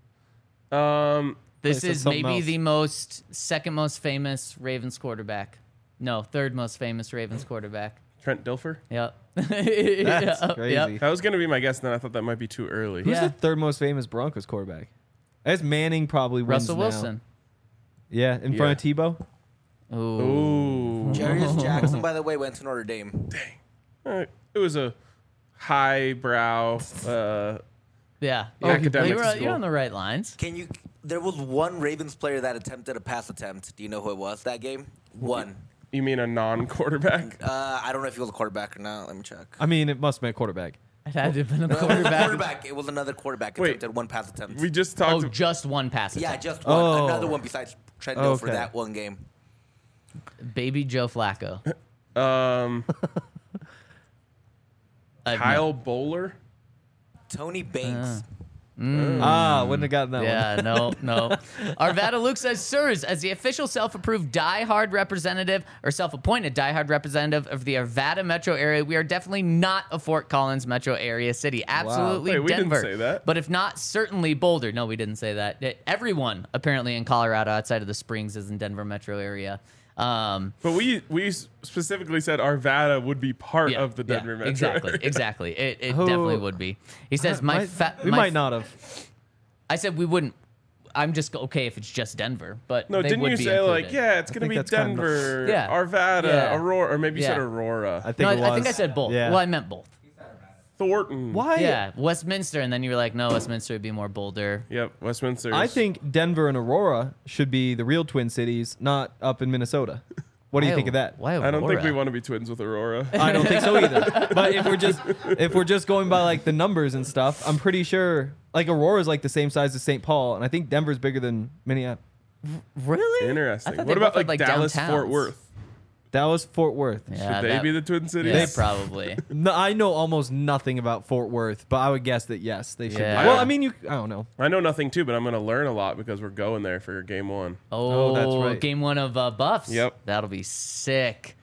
They This said is something maybe else. the second most famous Ravens quarterback. No, third most famous Ravens quarterback. Trent Dilfer. Yep. That's Yep, crazy. yep. That was going to be my guess, and then I thought that might be too early. Who's Yeah. the third most famous Broncos quarterback? I guess Manning probably wins Russell now. Wilson. Yeah, in front of Tebow. Ooh. Ooh. Jarius Jackson, by the way, went to Notre Dame. It was a highbrow. Yeah. Academic You're school. on the right lines. There was one Ravens player that attempted a pass attempt. Do you know who it was that game? One. You mean a non-quarterback? I don't know if he was a quarterback or not. Let me check. I mean, it must have been a quarterback. It had to have been a No, it was a quarterback. quarterback. It was another quarterback. Wait. Attempted one pass attempt. We just talked. Oh, just one pass Yeah, attempt. just one. Oh. Another one besides Trendale for Okay. that one game. Baby Joe Flacco. Kyle Bowler. Tony Banks. Mm. Wouldn't have gotten that one. Yeah, no. Arvada Luke says, sirs, as the official self-approved diehard representative or self-appointed diehard representative of the Arvada metro area, we are definitely not a Fort Collins metro area city. Absolutely Wait, we didn't Denver. say that. But if not, certainly Boulder. No, we didn't say that. Everyone apparently in Colorado outside of the Springs is in Denver metro area. But we specifically said Arvada would be part of the Denver metro. Exactly. It Who- definitely would be. He says, we my might not have. I said we wouldn't. I'm just okay if it's just Denver, but No, they didn't would you be say included. like, yeah, it's gonna think be that's kind of- Denver, Yeah. Arvada, Yeah. Aurora, or maybe you said Yeah. Aurora. I think No, it was. I think I said both. Yeah. Well, I meant both. Thornton. Why? Yeah, Westminster, and then you were like, no, Westminster would be more Boulder. Yep, Westminster. I think Denver and Aurora should be the real Twin Cities, not up in Minnesota. What do you think of that? Why I don't think we Aurora? want to be twins with Aurora. I don't think so either. But if we're just going by like the numbers and stuff, I'm pretty sure like Aurora's like the same size as St. Paul, and I think Denver's bigger than Minneapolis. Really? Interesting. I thought What they about both had, like Dallas, Fort downtowns. Worth? Dallas, Fort Worth. Yeah, Should they be the Twin Cities? Yeah, probably. No, I know almost nothing about Fort Worth, but I would guess that yes, they should. Yeah. Be. Well, I mean, I don't know. I know nothing too, but I'm gonna learn a lot because we're going there for game one. Oh, that's right. Game 1 of Buffs. Yep. That'll be sick.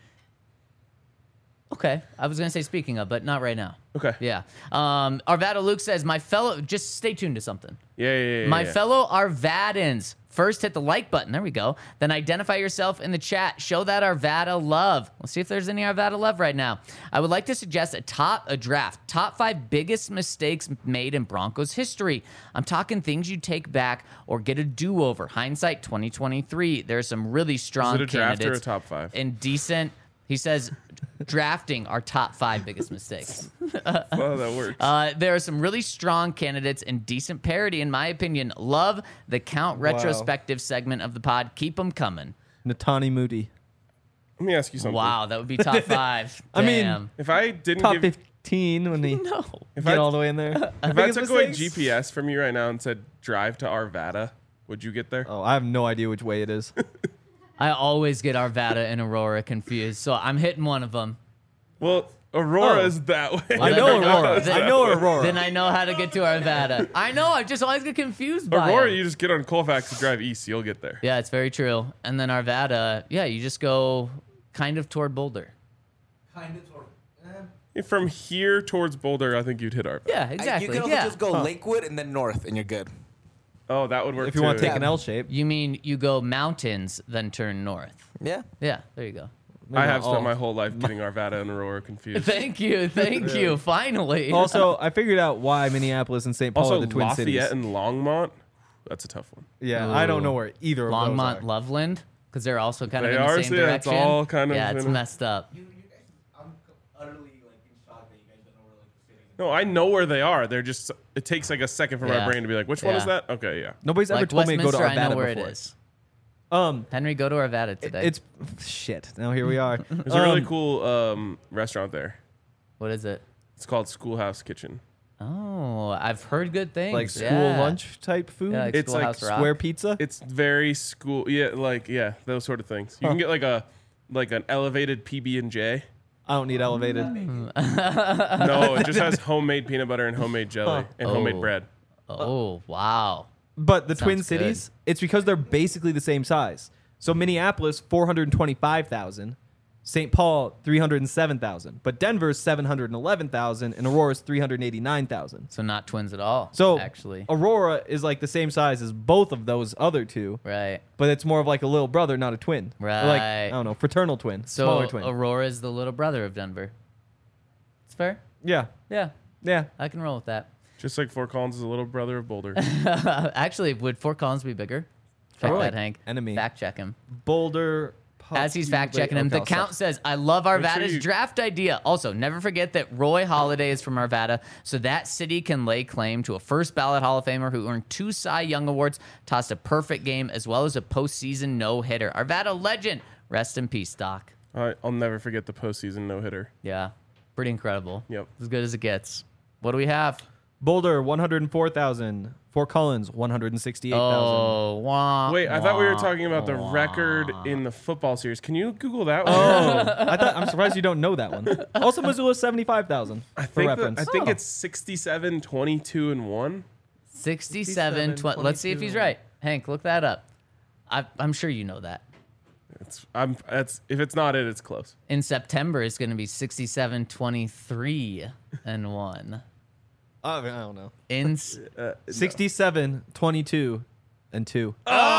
Okay. I was going to say speaking of, but not right now. Okay. Yeah. Arvada Luke says, my fellow, just stay tuned to something. Yeah. My fellow Arvadans, first hit the like button. There we go. Then identify yourself in the chat. Show that Arvada love. Let's see if there's any Arvada love right now. I would like to suggest a draft. Top 5 biggest mistakes made in Broncos history. I'm talking things you take back or get a do-over. Hindsight 2023. There's some really strong Is it a draft or a candidates top 5? and decent. He says drafting our top 5 biggest mistakes. Oh, that works. There are some really strong candidates and decent parody, in my opinion. Love the Count retrospective segment of the pod. Keep them coming. Natani Moody, Let me ask you something. Wow, that would be top 5. I mean, Damn. If I didn't top give, 15 when they No. if get I, all the way in there. if I Biggest took away mistakes? GPS from you right now and said drive to Arvada, would you get there? Oh, I have no idea which way it is. I always get Arvada and Aurora confused, so I'm hitting one of them. Well, Aurora Oh. is that way. I know Then- Aurora. then- I know Aurora. Then I know how to get to Arvada. I know, I just always get confused by Aurora, it. you just get on Colfax and drive east. You'll get there. Yeah, it's very true. And then Arvada, yeah, you just go kind of toward Boulder. From here towards Boulder, I think you'd hit Arvada. Yeah, exactly. You can also yeah. just go Lakewood and then north, and you're good. Oh, that would work If you want to too. take an L shape, You mean you go mountains, then turn north? Yeah. Yeah, there you go. I have all. spent my whole life getting Arvada and Aurora confused. Thank you, finally. Also, I figured out why Minneapolis and St. Paul Also, are the Twin Lafayette Cities. and Longmont. That's a tough one. Yeah, I don't know where either of Longmont, those are. Loveland, because they're also kind of They in the are, same so yeah, it's direction. all kind of yeah, it's in a- messed up. I'm utterly in shock that you guys don't know where the city. No, I know where they are. They're just. It takes like a second for my Yeah. brain to be like, which one is Yeah. that? Okay, yeah. Nobody's ever Like told me to go to Westminster, I know Arvada where before. it is. Um, Henry, go to Arvada today. it's shit. Now here we are. There's a really cool restaurant there. What is it? It's called Schoolhouse Kitchen. Oh, I've heard good things. like school yeah. lunch type food. Yeah, like It's like Schoolhouse Rock. Square pizza. It's very school. Yeah, those sort of things. You can get like an elevated PB and J. I don't need elevated. No, it just has homemade peanut butter and homemade jelly and homemade Oh. bread. Oh, wow. But the Twin Sounds good. Cities, it's because they're basically the same size. So Minneapolis, 425,000. St. Paul, 307,000. But Denver's 711,000, and Aurora's 389,000. So not twins at all. So actually, Aurora is like the same size as both of those other two, right. but it's more of like a little brother, not a twin. Or like, Right. I don't know, fraternal twin, So smaller twin. Aurora is the little brother of Denver. It's fair. Yeah, Yeah, yeah. I can roll with that. Just like Fort Collins is a little brother of Boulder. Actually, would Fort Collins be bigger? Check Probably. that, Hank. Enemy. Fact check him. Boulder. As he's fact checking him, the count says, I love Arvada's you- draft idea. Also, never forget that Roy Halladay is from Arvada, so that city can lay claim to a first ballot Hall of Famer who earned 2 Cy Young Awards, tossed a perfect game, as well as a postseason no hitter. Arvada legend, Rest in peace, Doc. I'll never forget the postseason no-hitter. Yeah, pretty incredible. Yep. As good as it gets. What do we have? Boulder 104,000. Fort Collins 168,000. Oh, wah, Wait, I thought we were wah, talking about the wah. record in the football series. Can you Google that one? I'm surprised you don't know that one. Also, Missoula 75,000 for reference. I think it's 67, 22, and 1. 67, 20. Let's see if he's right. Hank, look that up. I'm sure you know that. If it's not it, it's close. In September, it's going to be 67, 23, and 1. I don't know. In 67, 22, and 2.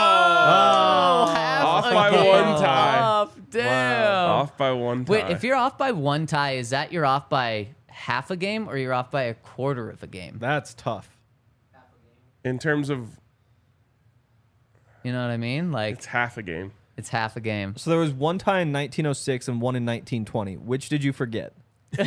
Off by one tie. Off, damn. Off by one tie. Wait, if you're off by one tie, is that you're off by half a game or you're off by a quarter of a game? That's tough. in terms of, You know what I mean? Like it's half a game. it's half a game. So there was one tie in 1906 and one in 1920. Which did you forget? The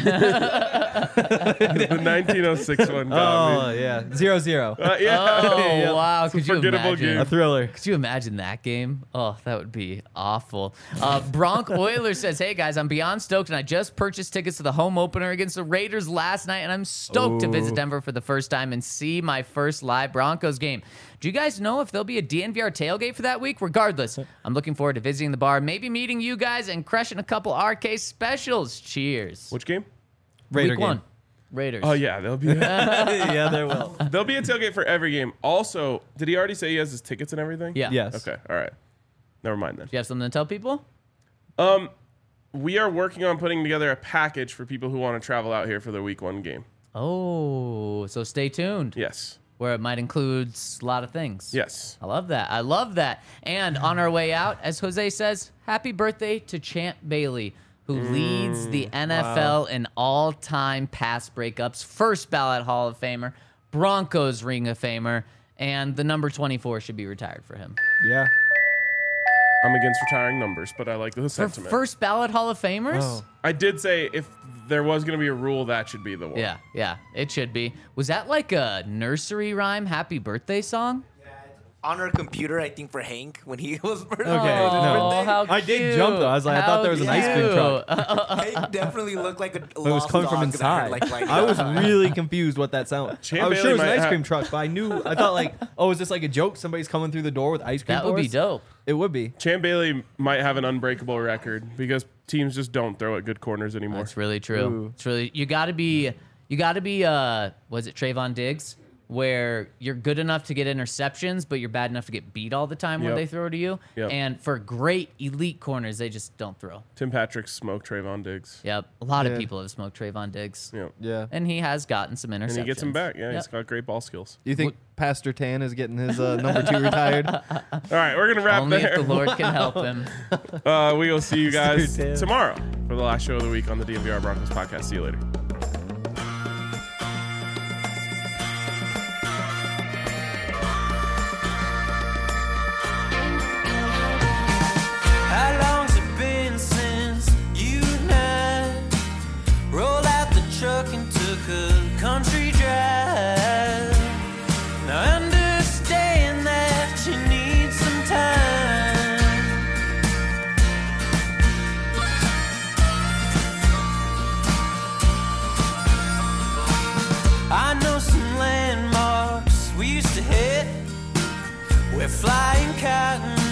1906 one got me. yeah. 0-0. Yeah. Oh Yeah. wow! It's a Could you forgettable imagine? game. A thriller. Could you imagine that game? Oh, that would be awful. Bronc Oilers says, "Hey guys, I'm beyond stoked, and I just purchased tickets to the home opener against the Raiders last night, and I'm stoked to visit Denver for the first time and see my first live Broncos game. Do you guys know if there'll be a DNVR tailgate for that week? Regardless, I'm looking forward to visiting the bar, maybe meeting you guys, and crushing a couple RK specials. Cheers." Which game? Raider Week game. 1, Raiders. Oh yeah, there'll be Yeah, there will. there'll be a tailgate for every game. Also, did he already say he has his tickets and everything? Yeah. Yes. Okay. All right. Never mind then. Do you have something to tell people? We are working on putting together a package for people who want to travel out here for the week 1 game. Oh, so stay tuned. Yes. Where it might include a lot of things. Yes. I love that. I love that. And on our way out, as Jose says, happy birthday to Champ Bailey, who leads the NFL in all-time pass breakups, first ballot Hall of Famer, Broncos Ring of Famer, and the number 24 should be retired for him. Yeah. I'm against retiring numbers, but I like the For sentiment. first ballot Hall of Famers? Oh. I did say if there was going to be a rule, that should be the one. Yeah, it should be. Was that like a nursery rhyme happy birthday song? On our computer, I think for Hank when he was Okay. Oh, No. how I did cute. jump, though. I was like, I thought there was an ice cream truck. Hank definitely looked like a But it was lost coming from dog that I heard, inside. like, I was really confused what that sounded. Champ I was Bailey sure it was an might ice cream have- truck, but I thought like, oh, is this like a joke? Somebody's coming through the door with ice cream That would be bars? dope. It would be. Champ Bailey might have an unbreakable record because teams just don't throw at good corners anymore. That's really true. Ooh. It's really you got to be was it Trayvon Diggs, where you're good enough to get interceptions, but you're bad enough to get beat all the time when Yep. they throw to you. Yep. And for great elite corners, they just don't throw. Tim Patrick smoked Trayvon Diggs. Yep, a lot Yeah. of people have smoked Trayvon Diggs, Yeah. Yeah. and he has gotten some interceptions. And he gets him back. Yeah, Yep. he's got great ball skills. Do you think Pastor Tan is getting his number 2 retired? All right, we're going to wrap Only there. if the Lord can help him. We will see you guys Tan. tomorrow for the last show of the week on the DNVR Broncos podcast. See you later. How long's it been since you and I rolled out the truck and took a country drive? Now I understand that you need some time. I know some landmarks we used to hit. We're flying cotton